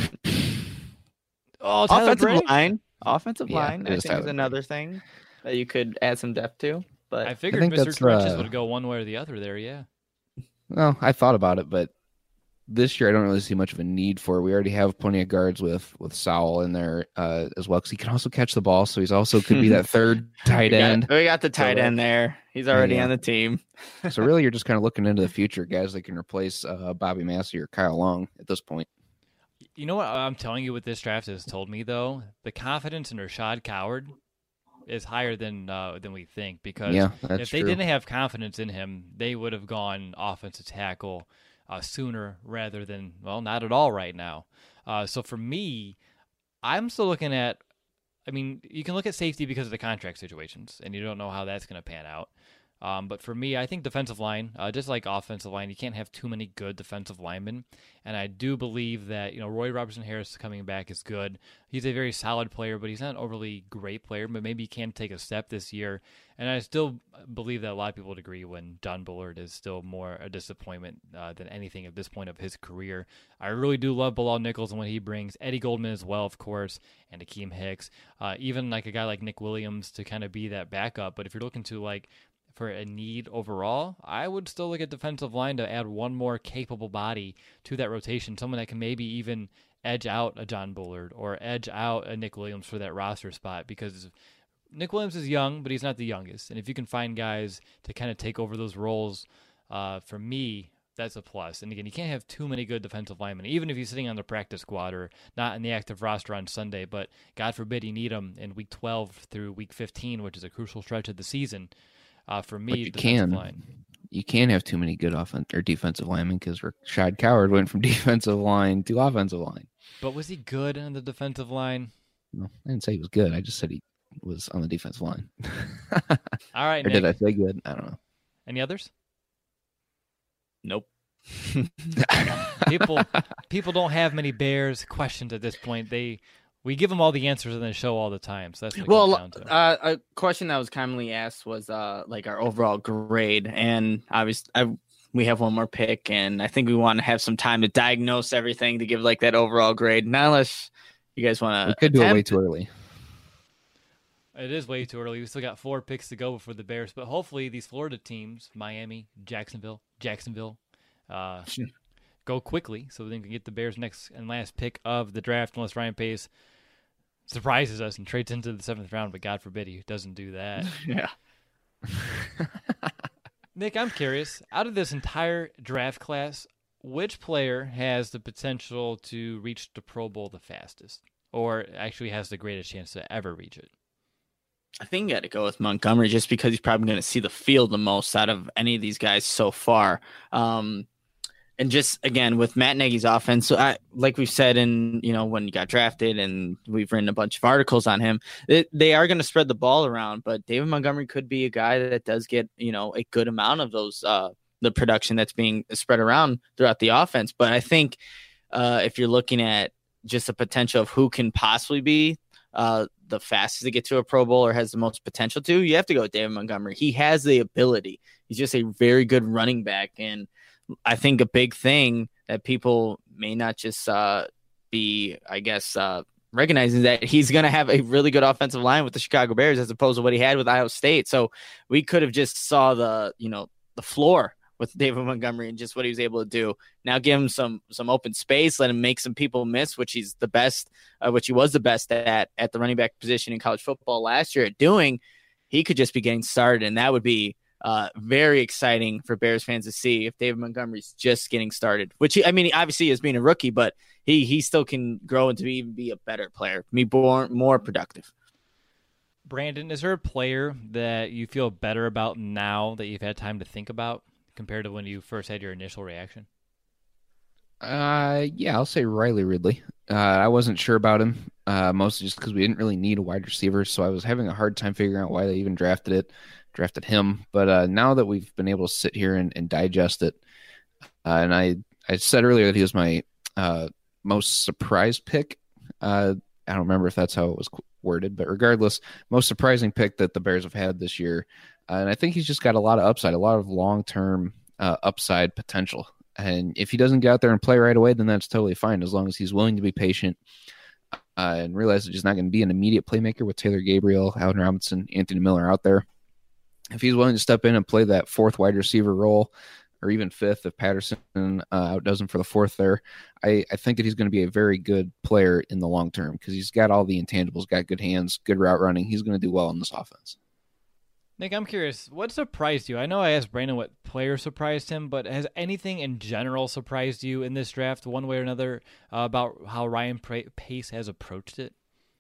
Oh, Tyler Offensive Bray? line, offensive Yeah, line, it I is think Tyler is Bray. another thing that you could add some depth to. But I figured think Mister that's, Trenches uh, would go one way or the other there, yeah. Well, I thought about it, but this year I don't really see much of a need for it. We already have plenty of guards with with Sowell in there uh, as well because he can also catch the ball, so he's also could be that third tight we got, end. we got the tight So, uh, end there. He's already yeah. on the team. So really, you're just kind of looking into the future, guys that can replace uh, Bobby Massey or Kyle Long at this point. You know what I'm telling you what this draft has told me, though? The confidence in Rashad Coward is higher than uh, than we think because Yeah, that's if they true. didn't have confidence in him, they would have gone offensive tackle uh, sooner rather than, well, not at all right now. Uh, so for me, I'm still looking at, I mean, you can look at safety because of the contract situations, and you don't know how that's going to pan out. Um, but for me, I think defensive line, uh, just like offensive line, you can't have too many good defensive linemen. And I do believe that, you know, Roy Robertson Harris coming back is good. He's a very solid player, but he's not an overly great player, but maybe he can take a step this year. And I still believe that a lot of people would agree when John Bullard is still more a disappointment uh, than anything at this point of his career. I really do love Bilal Nichols and what he brings. Eddie Goldman as well, of course, and Akeem Hicks. Uh, even like a guy like Nick Williams to kind of be that backup. But if you're looking to like, for a need overall, I would still look at defensive line to add one more capable body to that rotation, someone that can maybe even edge out a John Bullard or edge out a Nick Williams for that roster spot because Nick Williams is young, but he's not the youngest. And if you can find guys to kind of take over those roles, uh, for me, That's a plus. And again, you can't have too many good defensive linemen, even if he's sitting on the practice squad or not in the active roster on Sunday. But God forbid you need him in week twelve through week fifteen, which is a crucial stretch of the season. Uh, for me, but you defensive can. line. You can't have too many good offense or defensive linemen because Rashad Coward went from defensive line to offensive line. But was he good on the defensive line? No, I didn't say he was good. I just said he was on the defensive line. All right, or Nick. did I say good? I don't know. Any others? Nope. people people don't have many Bears questions at this point. They we give them all the answers in the show all the time. So that's what it well. comes down to. Uh, a question that was commonly asked was uh, like our overall grade, and obviously I, we have one more pick, and I think we want to have some time to diagnose everything to give like that overall grade. Not unless you guys want to. We could do it way too early. It is way too early. We still got four picks to go before the Bears, but hopefully these Florida teams, Miami, Jacksonville, Jacksonville, uh, go quickly so they can get the Bears' next and last pick of the draft, unless Ryan Pace surprises us and trades into the seventh round, but God forbid he doesn't do that. Yeah. Nick, I'm curious, out of this entire draft class, which player has the potential to reach the Pro Bowl the fastest, or actually has the greatest chance to ever reach it? I think you got to go with Montgomery just because he's probably going to see the field the most out of any of these guys so far. Um, and just, again, with Matt Nagy's offense, so I, like we've said in, you know, when he got drafted and we've written a bunch of articles on him, it, they are going to spread the ball around, but David Montgomery could be a guy that does get, you know, a good amount of those, uh, the production that's being spread around throughout the offense. But I think uh, if you're looking at just the potential of who can possibly be uh, the fastest to get to a Pro Bowl or has the most potential to, you have to go with David Montgomery. He has the ability. He's just a very good running back. And I think a big thing that people may not just uh, be, I guess, uh, recognizing that he's going to have a really good offensive line with the Chicago Bears as opposed to what he had with Iowa State. So we could have just saw the, you know, the floor with David Montgomery and just what he was able to do. Now give him some some open space, let him make some people miss, which he's the best, uh, which he was the best at at the running back position in college football last year at doing. He could just be getting started, and that would be uh, very exciting for Bears fans to see if David Montgomery's just getting started. Which he, I mean, obviously is being a rookie, but he he still can grow into even be a better player, be more more productive. Brandon, is there a player that you feel better about now that you've had time to think about, compared to when you first had your initial reaction? Uh, yeah, I'll say Riley Ridley. Uh, I wasn't sure about him, uh, mostly just because we didn't really need a wide receiver, so I was having a hard time figuring out why they even drafted it, drafted him. But uh, now that we've been able to sit here and, and digest it, uh, and I, I said earlier that he was my uh, most surprised pick. Uh, I don't remember if that's how it was worded, but regardless, most surprising pick that the Bears have had this year. Uh, and I think he's just got a lot of upside, a lot of long-term uh, upside potential. And if he doesn't get out there and play right away, then that's totally fine, as long as he's willing to be patient uh, and realize that he's not going to be an immediate playmaker with Taylor Gabriel, Allen Robinson, Anthony Miller out there. If he's willing to step in and play that fourth wide receiver role, or even fifth if Patterson uh, outdoes him for the fourth there, I, I think that he's going to be a very good player in the long term because he's got all the intangibles, got good hands, good route running. He's going to do well in this offense. Nick, I'm curious, what surprised you? I know I asked Brandon what player surprised him, but has anything in general surprised you in this draft, one way or another, uh, about how Ryan Pace has approached it?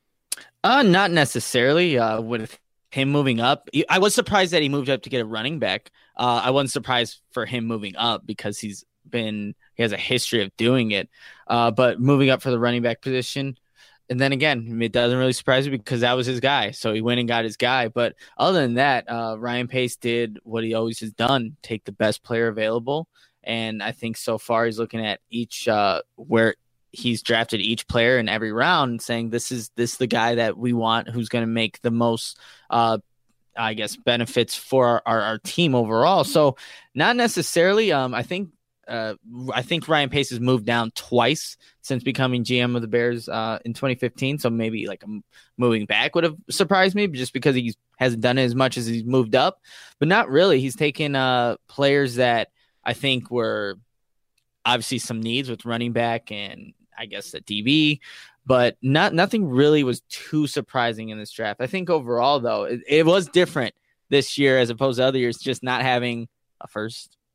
Uh, not necessarily. Uh, with him moving up, I was surprised that he moved up to get a running back. Uh, I wasn't surprised for him moving up because he's been he has a history of doing it. Uh, but moving up for the running back position. And then again, it doesn't really surprise me because that was his guy. So he went and got his guy. But other than that, uh, Ryan Pace did what he always has done, take the best player available. And I think so far he's looking at each uh, where he's drafted each player in every round and saying, this is this the guy that we want, who's going to make the most, uh, I guess, benefits for our, our, our team overall. So not necessarily. Um, I think Uh, I think Ryan Pace has moved down twice since becoming G M of the Bears uh, in twenty fifteen. So maybe like a moving back would have surprised me just because he hasn't done it as much as he's moved up, but not really. He's taken uh, players that I think were obviously some needs with running back and I guess the D B, but not nothing really was too surprising in this draft. I think overall though, it, it was different this year as opposed to other years, just not having a first.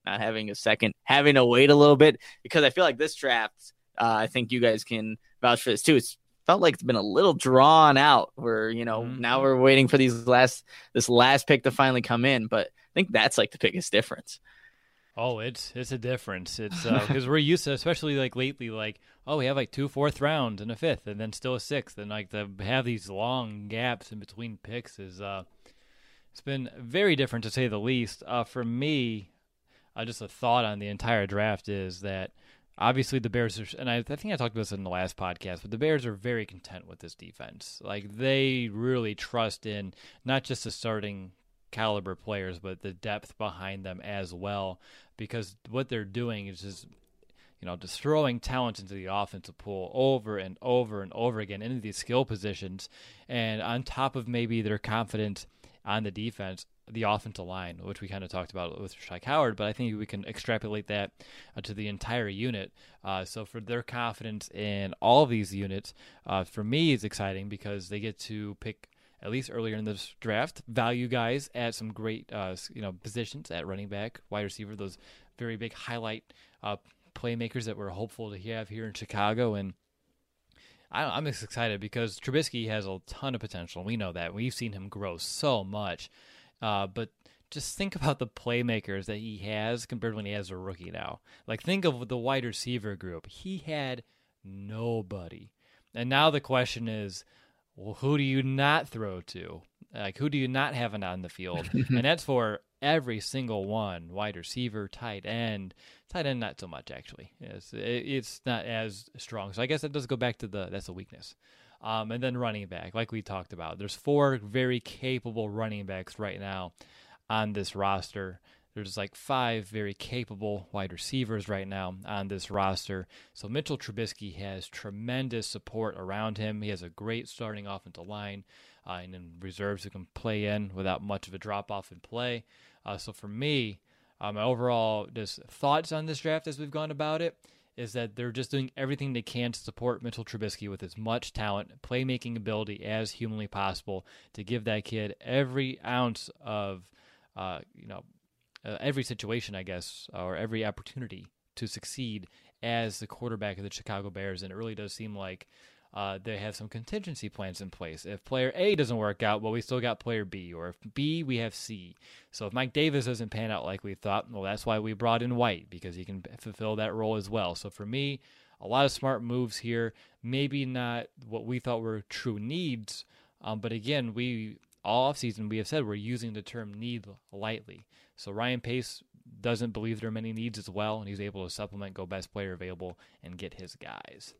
not having a second, having to wait a little bit, because I feel like this draft, uh, I think you guys can vouch for this too. It's felt like it's been a little drawn out where, you know, mm-hmm. now we're waiting for these last, this last pick to finally come in. But I think that's like the biggest difference. Oh, it's it's a difference. It's because uh, we're used to, especially like lately, like, oh, we have like two fourth rounds and a fifth, and then still a sixth, and like to have these long gaps in between picks is uh, it's been very different to say the least. Uh, for me, uh, just a thought on the entire draft is that obviously the Bears are, and I, I think I talked about this in the last podcast, but the Bears are very content with this defense. Like they really trust in not just the starting caliber players, but the depth behind them as well, because what they're doing is just, you know, just throwing talent into the offensive pool over and over and over again into these skill positions. And on top of maybe their confidence on the defense, the offensive line, which we kind of talked about with Shai Howard, but I think we can extrapolate that uh, to the entire unit. Uh, so for their confidence in all of these units, uh, for me, it's exciting because they get to pick, at least earlier in this draft, value guys at some great uh, you know positions at running back, wide receiver, those very big highlight uh, playmakers that we're hopeful to have here in Chicago. And I, I'm just excited because Trubisky has a ton of potential. We know that. We've seen him grow so much. Uh, but just think about the playmakers that he has compared to when he has a rookie now. Like, think of the wide receiver group. He had nobody. And now the question is, well, who do you not throw to? Like, who do you not have on the field? And that's for every single one. Wide receiver, tight end. Tight end, not so much, actually. It's, it's not as strong. So I guess that does go back to the, that's a weakness. Um, and then running back, like we talked about. There's four very capable running backs right now on this roster. There's like five very capable wide receivers right now on this roster. So Mitchell Trubisky has tremendous support around him. He has a great starting offensive line uh, and then reserves who can play in without much of a drop-off in play. Uh, so for me, uh, my overall just thoughts on this draft as we've gone about it is that they're just doing everything they can to support Mitchell Trubisky with as much talent, playmaking ability as humanly possible to give that kid every ounce of, uh, you know, uh, every situation, I guess, or every opportunity to succeed as the quarterback of the Chicago Bears. And it really does seem like uh, they have some contingency plans in place. If player A doesn't work out, well, we still got player B, or if B, we have C. So if Mike Davis doesn't pan out like we thought, well, that's why we brought in White, because he can fulfill that role as well. So for me, a lot of smart moves here. Maybe not what we thought were true needs, um, but again, we all offseason we have said we're using the term need lightly. So Ryan Pace doesn't believe there are many needs as well, and he's able to supplement, go best player available, and get his guys.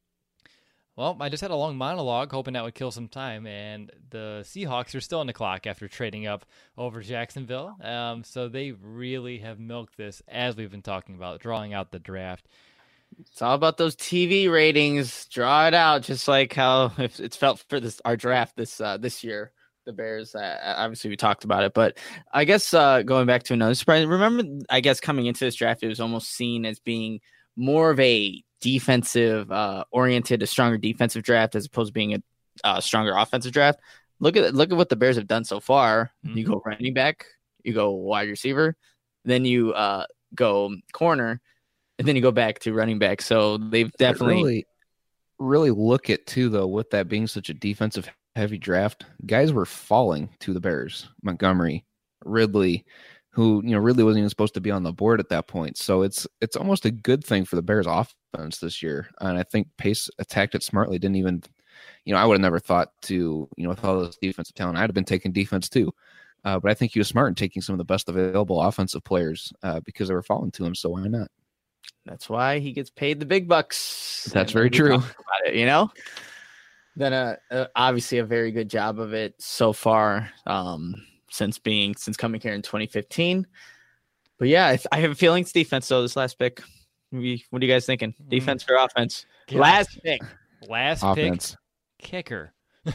Well, I just had a long monologue hoping that would kill some time, and the Seahawks are still on the clock after trading up over Jacksonville. Um, so they really have milked this, as we've been talking about, drawing out the draft. It's all about those T V ratings. Draw it out, just like how it's felt for this our draft this uh, this year. The Bears, uh, obviously we talked about it, but I guess uh, going back to another surprise, remember, I guess coming into this draft, it was almost seen as being more of a defensive uh, oriented, a stronger defensive draft as opposed to being a uh, stronger offensive draft. Look at look at what the Bears have done so far. Mm-hmm. You go running back, you go wide receiver, then you uh, go corner, and then you go back to running back. So they've definitely really, really look at too, though, with that being such a defensive heavy draft, guys were falling to the Bears. Montgomery, Ridley, who, you know, Ridley wasn't even supposed to be on the board at that point. So it's it's almost a good thing for the Bears offense this year. And I think Pace attacked it smartly. Didn't even, you know, I would have never thought to, you know, with all this defensive talent, I'd have been taking defense too. Uh, but I think he was smart in taking some of the best available offensive players uh, because they were falling to him. So why not? That's why he gets paid the big bucks. That's very true. About it, you know? Then uh, uh, obviously a very good job of it so far um, since being since coming here in twenty fifteen. But yeah, I, I have a feeling it's defense. So this last pick, maybe, what are you guys thinking? Defense or offense? Yeah. Last pick, last offense. Pick, kicker.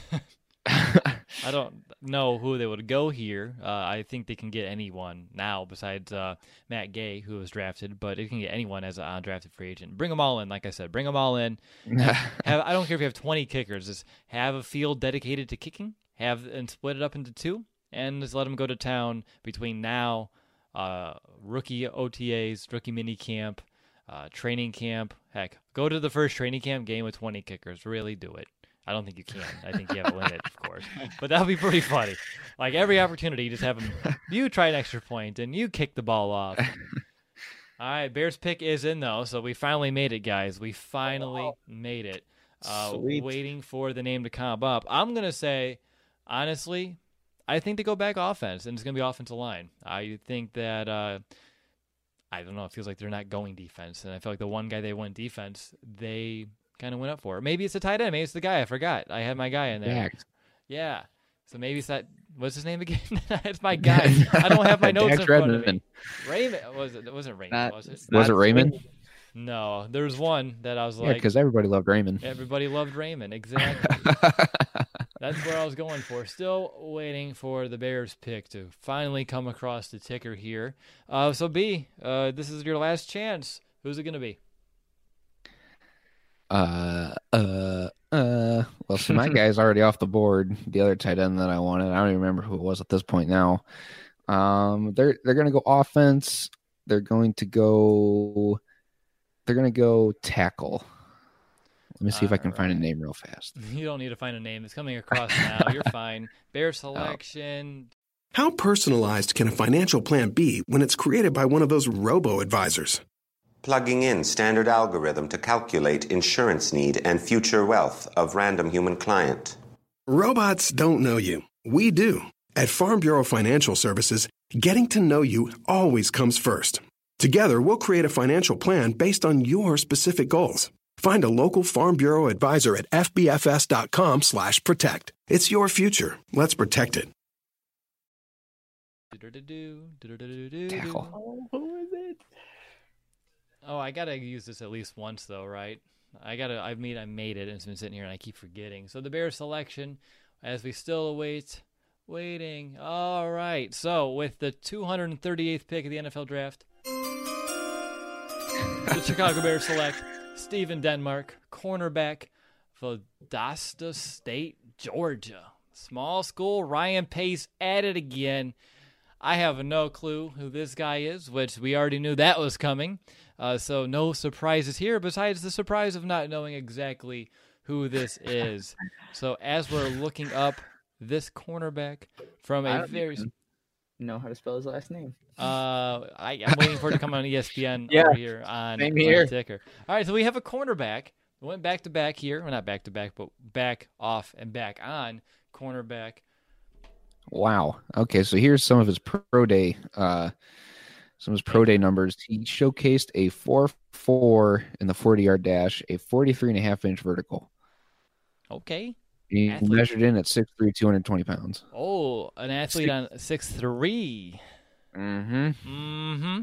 I don't know who they would go here. Uh, I think they can get anyone now besides uh, Matt Gay, who was drafted, but it can get anyone as an undrafted free agent. Bring them all in, like I said. Bring them all in. have, I don't care if you have twenty kickers. Just have a field dedicated to kicking, have and split it up into two, and just let them go to town between now uh, rookie O T As, rookie mini camp, uh, training camp. Heck, go to the first training camp game with twenty kickers. Really do it. I don't think you can. I think you have a limit, of course. But that would be pretty funny. Like every opportunity, you just have them, you try an extra point and you kick the ball off. All right, Bears pick is in, though, so we finally made it, guys. We finally made it. Uh, waiting for the name to come up. I'm going to say, honestly, I think they go back offense, and it's going to be offensive line. I think that, uh, I don't know, it feels like they're not going defense, and I feel like the one guy they went defense, they kind of went up for. Maybe it's a tight end. Maybe it's the guy. I forgot. I had my guy in there. Dax. Yeah. So maybe it's that. What's his name again? It's my guy. I don't have my notes Dax in front Redmond. of me. Raymond. Was it? It wasn't Raymond, Not- was it? Was it Raymond? No. There was one that I was Yeah, like, because everybody loved Raymond. everybody loved Raymond. Exactly. That's where I was going for. Still waiting for the Bears pick to finally come across the ticker here. Uh, so, B, uh, this is your last chance. Who's it going to be? Uh, uh, uh. Well, so my guy's already off the board. The other tight end that I wanted, I don't even remember who it was at this point now. Um, they're they're gonna go offense. They're going to go. They're gonna go tackle. Let me see if I can find a Alright. name real fast. You don't need to find a name. It's coming across now. You're fine. Bear selection. How personalized can a financial plan be when it's created by one of those robo-advisors? Plugging in standard algorithm to calculate insurance need and future wealth of random human client. Robots don't know you. We do. At Farm Bureau Financial Services, getting to know you always comes first. Together, we'll create a financial plan based on your specific goals. Find a local Farm Bureau advisor at f b f s dot com slash protect. It's your future. Let's protect it. Do-do-do-do, do-do-do-do-do. Tackle. Oh, who is it? Oh, I gotta use this at least once, though, right? I gotta. I mean, I made it, and it's been sitting here, and I keep forgetting. So the Bears selection, as we still await, waiting. All right. So with the two hundred thirty-eighth pick of the N F L draft, the Chicago Bears select Steven Denmark, cornerback, Valdosta State, Georgia. Small school. Ryan Pace at it again. I have no clue who this guy is, which we already knew that was coming. Uh, so no surprises here, besides the surprise of not knowing exactly who this is. So as we're looking up this cornerback from I a don't very... even know how to spell his last name. Uh, I, I'm waiting for it to come on E S P N Yeah, over here on, same on here. the ticker. All right, so we have a cornerback. We went back to back here. Well, not back to back, but back off and back on cornerback. Wow. Okay, so here's some of his pro day, uh, some of his pro day numbers. He showcased a four four in the forty-yard dash, a forty-three and a half inch vertical. Okay. He Athlete. measured in at six three, two hundred twenty pounds. Oh, an athlete on six three. Mm-hmm. Mm-hmm.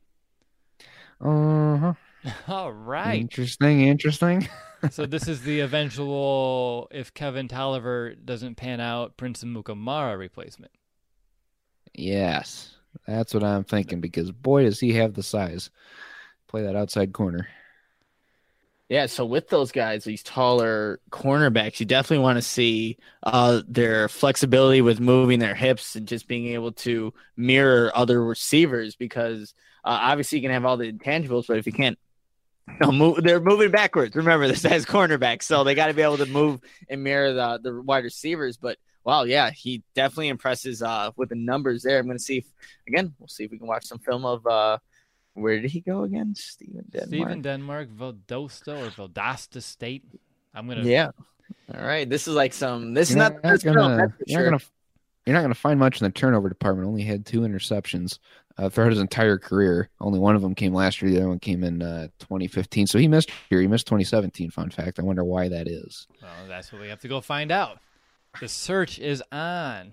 Uh-huh. All right. Interesting, interesting. So this is the eventual, if Kevin Tolliver doesn't pan out, Prince Mukamara replacement. Yes, that's what I'm thinking, because boy, does he have the size. Play that outside corner. Yeah, so with those guys, these taller cornerbacks, you definitely want to see uh, their flexibility with moving their hips and just being able to mirror other receivers, because uh, obviously you can have all the intangibles, but if you can't, you know, move, they're moving backwards. Remember, this guy's cornerback, so they got to be able to move and mirror the, the wide receivers. But, wow, yeah, he definitely impresses uh, with the numbers there. I'm going to see if, again, we'll see if we can watch some film of uh, where did he go again? Steven Denmark. Steven Denmark, Valdosta or Valdosta State. I'm gonna. Yeah. All right. This is like some. This is You're not. not That's gonna- film, that's for you're sure. not gonna You're not going to find much in the turnover department. Only had two interceptions uh, throughout his entire career. Only one of them came last year. The other one came in uh, twenty fifteen. So he missed here. He missed twenty seventeen, fun fact. I wonder why that is. Well, that's what we have to go find out. The search is on.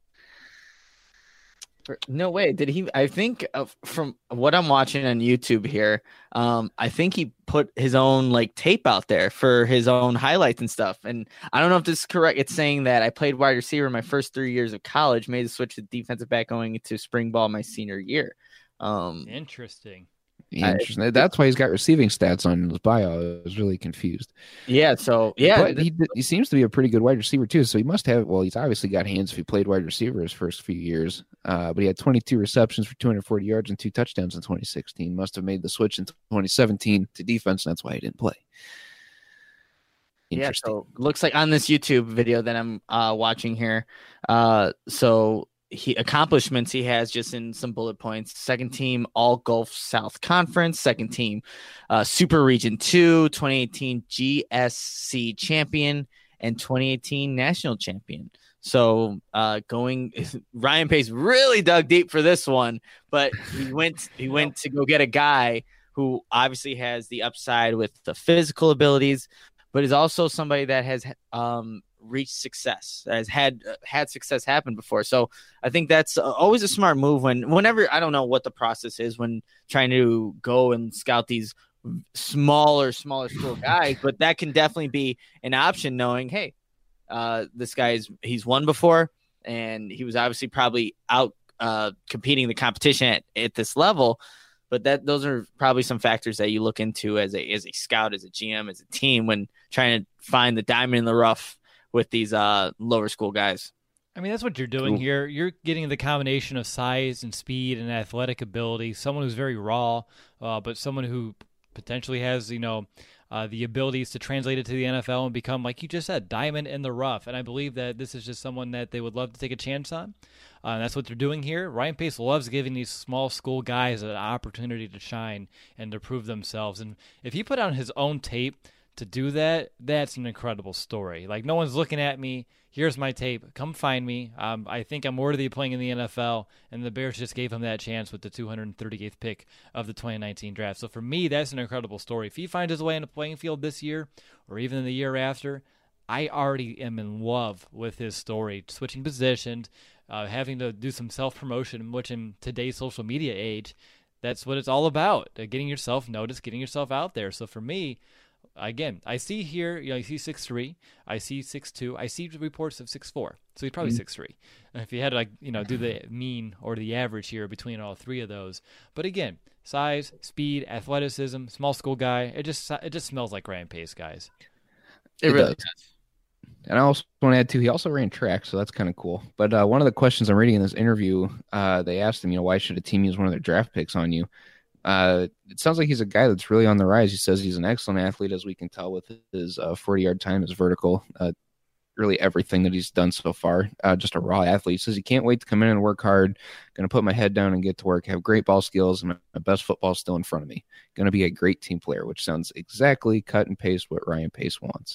No way. Did he? I think uh, from what I'm watching on YouTube here, um, I think he put his own like tape out there for his own highlights and stuff. And I don't know if this is correct. It's saying that I played wide receiver in my first three years of college, made the switch to defensive back going into spring ball my senior year. Um, Interesting. Interesting. That's why he's got receiving stats on his bio. I was really confused. yeah. So yeah, But he, he seems to be a pretty good wide receiver too. So he must have. Well, he's obviously got hands if he played wide receiver his first few years. Uh, but he had twenty-two receptions for two hundred forty yards and two touchdowns in twenty sixteen. Must have made the switch in twenty seventeen to defense, and that's why he didn't play. Yeah, so looks like on this YouTube video that I'm uh, watching here, uh, so he accomplishments he has just in some bullet points. Second team All Gulf South Conference, second team uh, Super Region two, twenty eighteen G S C champion, and twenty eighteen national champion. So uh, going, Ryan Pace really dug deep for this one, but he went he went to go get a guy who obviously has the upside with the physical abilities, but is also somebody that has um, reached success, that has had uh, had success happen before. So I think that's uh, always a smart move when, whenever, I don't know what the process is when trying to go and scout these smaller, smaller school guys, but that can definitely be an option knowing, hey, uh, this guy's, he's won before, and he was obviously probably out uh, competing the competition at, at this level. But that those are probably some factors that you look into as a as a scout, as a G M, as a team when trying to find the diamond in the rough with these uh, lower school guys. I mean, that's what you're doing Cool. here. You're getting the combination of size and speed and athletic ability. Someone who's very raw, uh, but someone who potentially has, you know, uh, the abilities to translate it to the N F L and become, like you just said, diamond in the rough. And I believe that this is just someone that they would love to take a chance on. Uh, and that's what they're doing here. Ryan Pace loves giving these small school guys an opportunity to shine and to prove themselves. And if he put on his own tape to do that, that's an incredible story. Like, no one's looking at me. Here's my tape. Come find me. Um, I think I'm worthy of playing in the N F L. And the Bears just gave him that chance with the two hundred thirty-eighth pick of the twenty nineteen draft. So for me, that's an incredible story. If he finds his way in the playing field this year or even in the year after, I already am in love with his story. Switching positions, uh, having to do some self-promotion, which in today's social media age, that's what it's all about. Uh, getting yourself noticed, getting yourself out there. So for me, again, I see here, you know, I see six three, I see six two, I see reports of six four. So he's probably six three. And if you had to, like, you know, do the mean or the average here between all three of those. But again, size, speed, athleticism, small school guy, it just it just smells like Ryan Pace, guys. It, It really does. does. And I also want to add, too, he also ran track, so that's kind of cool. But uh, one of the questions I'm reading in this interview, uh, they asked him, you know, why should a team use one of their draft picks on you? Uh, it sounds like he's a guy that's really on the rise. He says he's an excellent athlete, as we can tell with his uh, forty-yard time, his vertical, uh, really everything that he's done so far. Uh, just a raw athlete. He says he can't wait to come in and work hard. Going to put my head down and get to work, have great ball skills, and my, my best football still in front of me. Going to be a great team player, which sounds exactly cut and paste what Ryan Pace wants.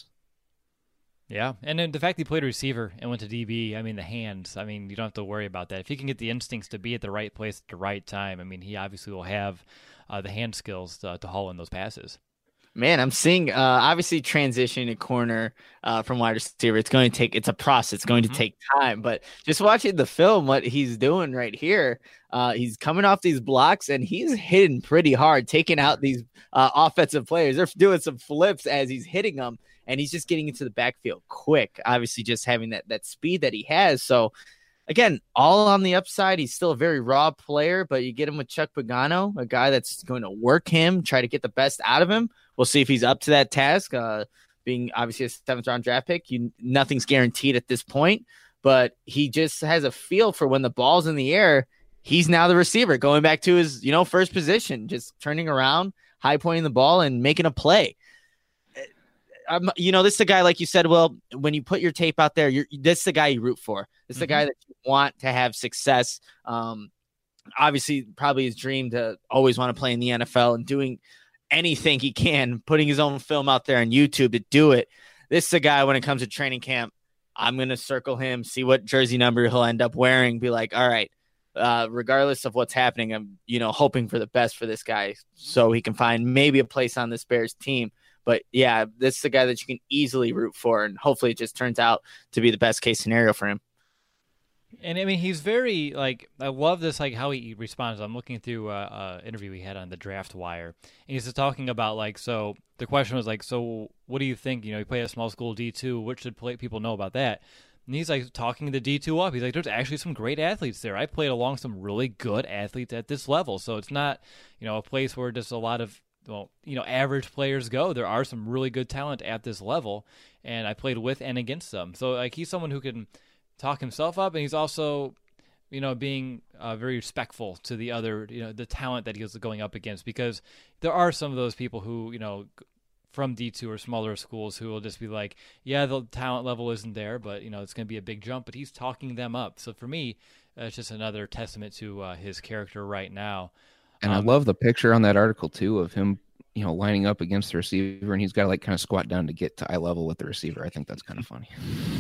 Yeah, and then the fact he played receiver and went to D B, I mean, the hands, I mean, you don't have to worry about that. If he can get the instincts to be at the right place at the right time, I mean, he obviously will have uh, the hand skills to, to haul in those passes. Man, I'm seeing uh, obviously transition a corner uh, from wide receiver. It's going to take, it's a process. It's going to Mhm. take time. But just watching the film, what he's doing right here, uh, he's coming off these blocks and he's hitting pretty hard, taking out these uh, offensive players. They're doing some flips as he's hitting them, and he's just getting into the backfield quick. Obviously, just having that that speed that he has. So, again, all on the upside. He's still a very raw player, but you get him with Chuck Pagano, a guy that's going to work him, try to get the best out of him. We'll see if he's up to that task. Uh, being obviously a seventh round draft pick, you nothing's guaranteed at this point, but he just has a feel for when the ball's in the air. He's now the receiver, going back to his, you know, first position, just turning around, high pointing the ball, and making a play. I'm, you know, this is the guy, like you said, Will, when you put your tape out there, you're, this is the guy you root for. This is Mhm. the guy that you want to have success. Um, obviously, probably his dream to always want to play in the N F L and doing anything he can, putting his own film out there on YouTube to do it. This is the guy when it comes to training camp, I'm going to circle him, see what jersey number he'll end up wearing, be like, all right, uh, regardless of what's happening, I'm, you know, hoping for the best for this guy so he can find maybe a place on this Bears team. But yeah, this is the guy that you can easily root for, and hopefully it just turns out to be the best case scenario for him. And I mean, he's very, like, I love this, like, how he responds. I'm looking through an uh, interview we had on the Draft Wire, and he's just talking about, like, so the question was, like, so what do you think? You know, you play at small school D two. What should play, people know about that? And he's, like, talking the D two up. He's like, there's actually some great athletes there. I played along some really good athletes at this level. So it's not, you know, a place where just a lot of, well, you know, average players go. There are some really good talent at this level, and I played with and against them. So, like, he's someone who can talk himself up, and he's also you know, being uh, very respectful to the other, you know, the talent that he was going up against, because there are some of those people who, you know, from D two or smaller schools who will just be like, yeah, the talent level isn't there, but, you know, it's going to be a big jump, but he's talking them up. So for me, uh, it's just another testament to uh, his character right now. And um, I love the picture on that article too of him, you know, lining up against the receiver, and he's got to like kind of squat down to get to eye level with the receiver. I think that's kind of funny.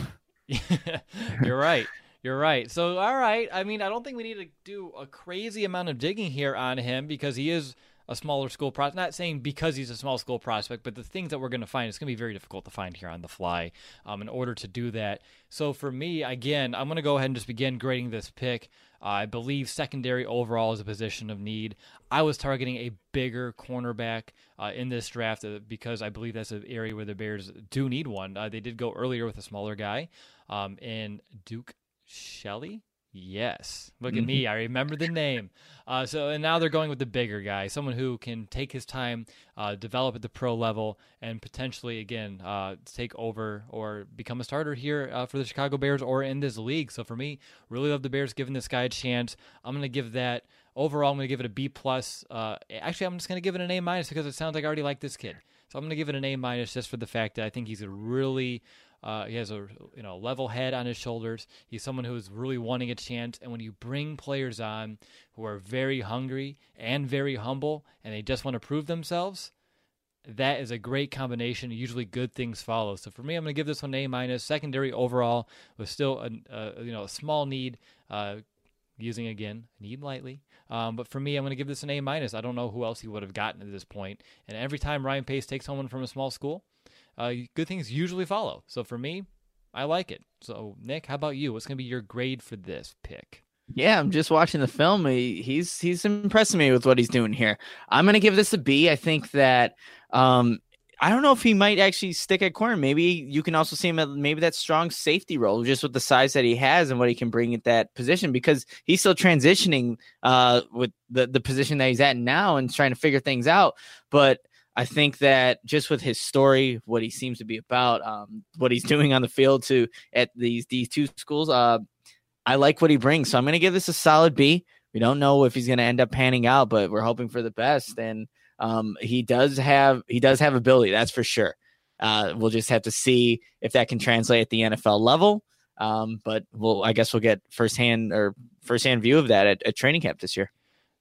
You're right. You're right. So, all right. I mean, I don't think we need to do a crazy amount of digging here on him because he is a smaller school prospect. Not saying because he's a small school prospect, but the things that we're going to find, it's going to be very difficult to find here on the fly um, in order to do that. So for me, again, I'm going to go ahead and just begin grading this pick. Uh, I believe secondary overall is a position of need. I was targeting a bigger cornerback uh, in this draft uh, because I believe that's an area where the Bears do need one. Uh, they did go earlier with a smaller guy um, in Duke Shelley. Yes. Look at me. I remember the name. Uh, so, and now they're going with the bigger guy, someone who can take his time, uh, develop at the pro level, and potentially, again, uh, take over or become a starter here uh, for the Chicago Bears or in this league. So for me, really love the Bears giving this guy a chance. I'm going to give that, overall, I'm going to give it a B plus. Uh, actually, I'm just going to give it an A minus because it sounds like I already like this kid. So I'm going to give it an A minus just for the fact that I think he's a really Uh, he has a you know level head on his shoulders. He's someone who is really wanting a chance. And when you bring players on who are very hungry and very humble, and they just want to prove themselves, that is a great combination. Usually, good things follow. So for me, I'm going to give this one an A minus. Secondary overall was still a, a you know a small need. Uh, using again need lightly. Um, but for me, I'm going to give this an A minus. I don't know who else he would have gotten at this point. And every time Ryan Pace takes someone from a small school, Uh, good things usually follow. So for me, I like it. So Nick, how about you? What's going to be your grade for this pick? Yeah, I'm just watching the film. He, he's he's impressing me with what he's doing here. I'm going to give this a B. I think that um, I don't know if he might actually stick at corner. Maybe you can also see him at maybe that strong safety role, just with the size that he has and what he can bring at that position, because he's still transitioning uh, with the, the position that he's at now and trying to figure things out. But I think that just with his story, what he seems to be about, um, what he's doing on the field to at these D two schools, uh, I like what he brings. So I'm going to give this a solid B. We don't know if he's going to end up panning out, but we're hoping for the best. And um, he does have he does have ability, that's for sure. Uh, we'll just have to see if that can translate at the N F L level. Um, but we'll I guess we'll get firsthand or firsthand view of that at, at training camp this year.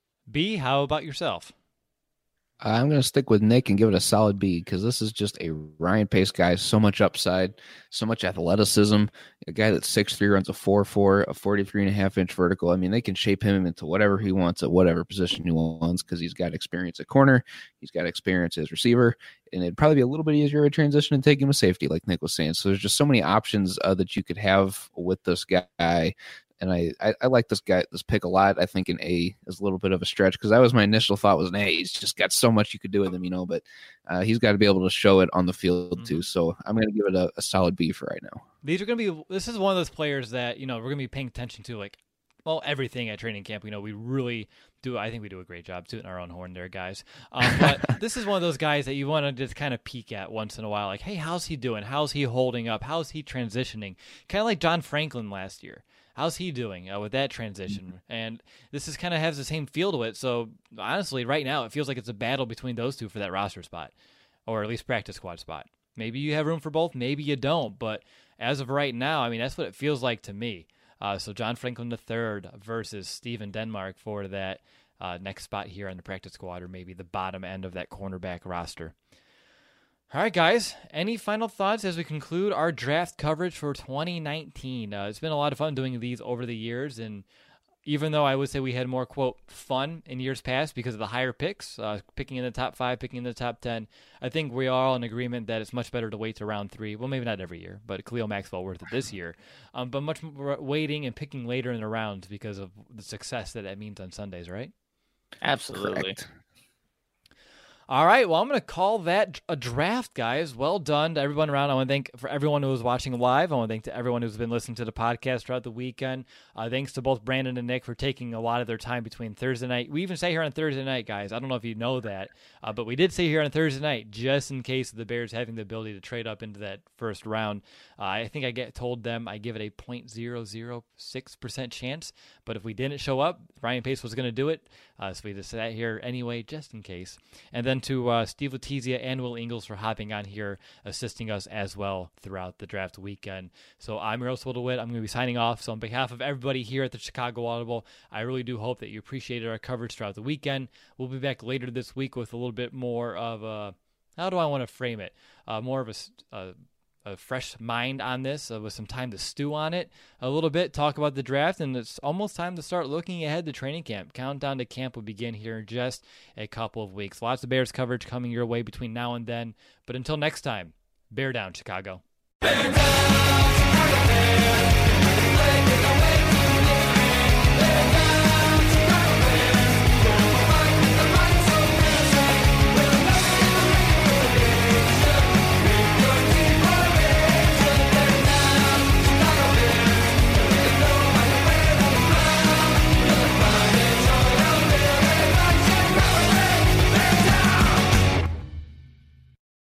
B, how about yourself? I'm going to stick with Nick and give it a solid B because this is just a Ryan Pace guy. So much upside, so much athleticism. A guy that's six three, runs a four four, a forty-three and a half inch vertical. I mean, they can shape him into whatever he wants at whatever position he wants because he's got experience at corner. He's got experience as receiver. And it'd probably be a little bit easier to transition and take him a safety, like Nick was saying. So there's just so many options uh, that you could have with this guy. And I, I, I like this guy, this pick a lot. I think an A is a little bit of a stretch because that was my initial thought was an A. He's just got so much you could do with him, you know, but uh, he's got to be able to show it on the field mm-hmm. too. So I'm going to give it a, a solid B for right now. These are going to be, this is one of those players that, you know, we're going to be paying attention to, like, well, everything at training camp. You know, we really do, I think we do a great job tooting our own horn there, guys. Um, but this is one of those guys that you want to just kind of peek at once in a while. Like, hey, how's he doing? How's he holding up? How's he transitioning? Kind of like John Franklin last year. How's he doing uh, with that transition? And this is kind of has the same feel to it. So honestly, right now, it feels like it's a battle between those two for that roster spot, or at least practice squad spot. Maybe you have room for both, maybe you don't. But as of right now, I mean, that's what it feels like to me. Uh, so John Franklin the third versus Steven Denmark for that uh, next spot here on the practice squad, or maybe the bottom end of that cornerback roster. All right, guys, any final thoughts as we conclude our draft coverage for twenty nineteen? Uh, it's been a lot of fun doing these over the years, and even though I would say we had more, quote, fun in years past because of the higher picks, uh, picking in the top five, picking in the top ten, I think we are all in agreement that it's much better to wait to round three. Well, maybe not every year, but Khalil Maxwell worth it this year. Um, but much more waiting and picking later in the rounds because of the success that that means on Sundays, right? Absolutely. Correct. All right, well, I'm going to call that a draft, guys. Well done to everyone around. I want to thank for everyone who was watching live. I want to thank to everyone who's been listening to the podcast throughout the weekend. Uh, thanks to both Brandon and Nick for taking a lot of their time between Thursday night. We even say here on Thursday night, guys. I don't know if you know that, uh, but we did say here on Thursday night, just in case of the Bears having the ability to trade up into that first round. Uh, I think I get told them I give it a zero point zero zero six percent chance, but if we didn't show up, Ryan Pace was going to do it, uh, so we just sat here anyway, just in case. And then to uh, Steve Letizia and Will Ingles for hopping on here, assisting us as well throughout the draft weekend. So I'm Russell DeWitt. I'm going to be signing off. So on behalf of everybody here at the Chicago Audible, I really do hope that you appreciated our coverage throughout the weekend. We'll be back later this week with a little bit more of a, how do I want to frame it? Uh, more of a, a a fresh mind on this, uh, with some time to stew on it a little bit, talk about the draft, and it's almost time to start looking ahead to training camp. Countdown to camp will begin here in just a couple of weeks. Lots of Bears coverage coming your way between now and then, but until next time, bear down, Chicago. Bear down, Chicago, bear.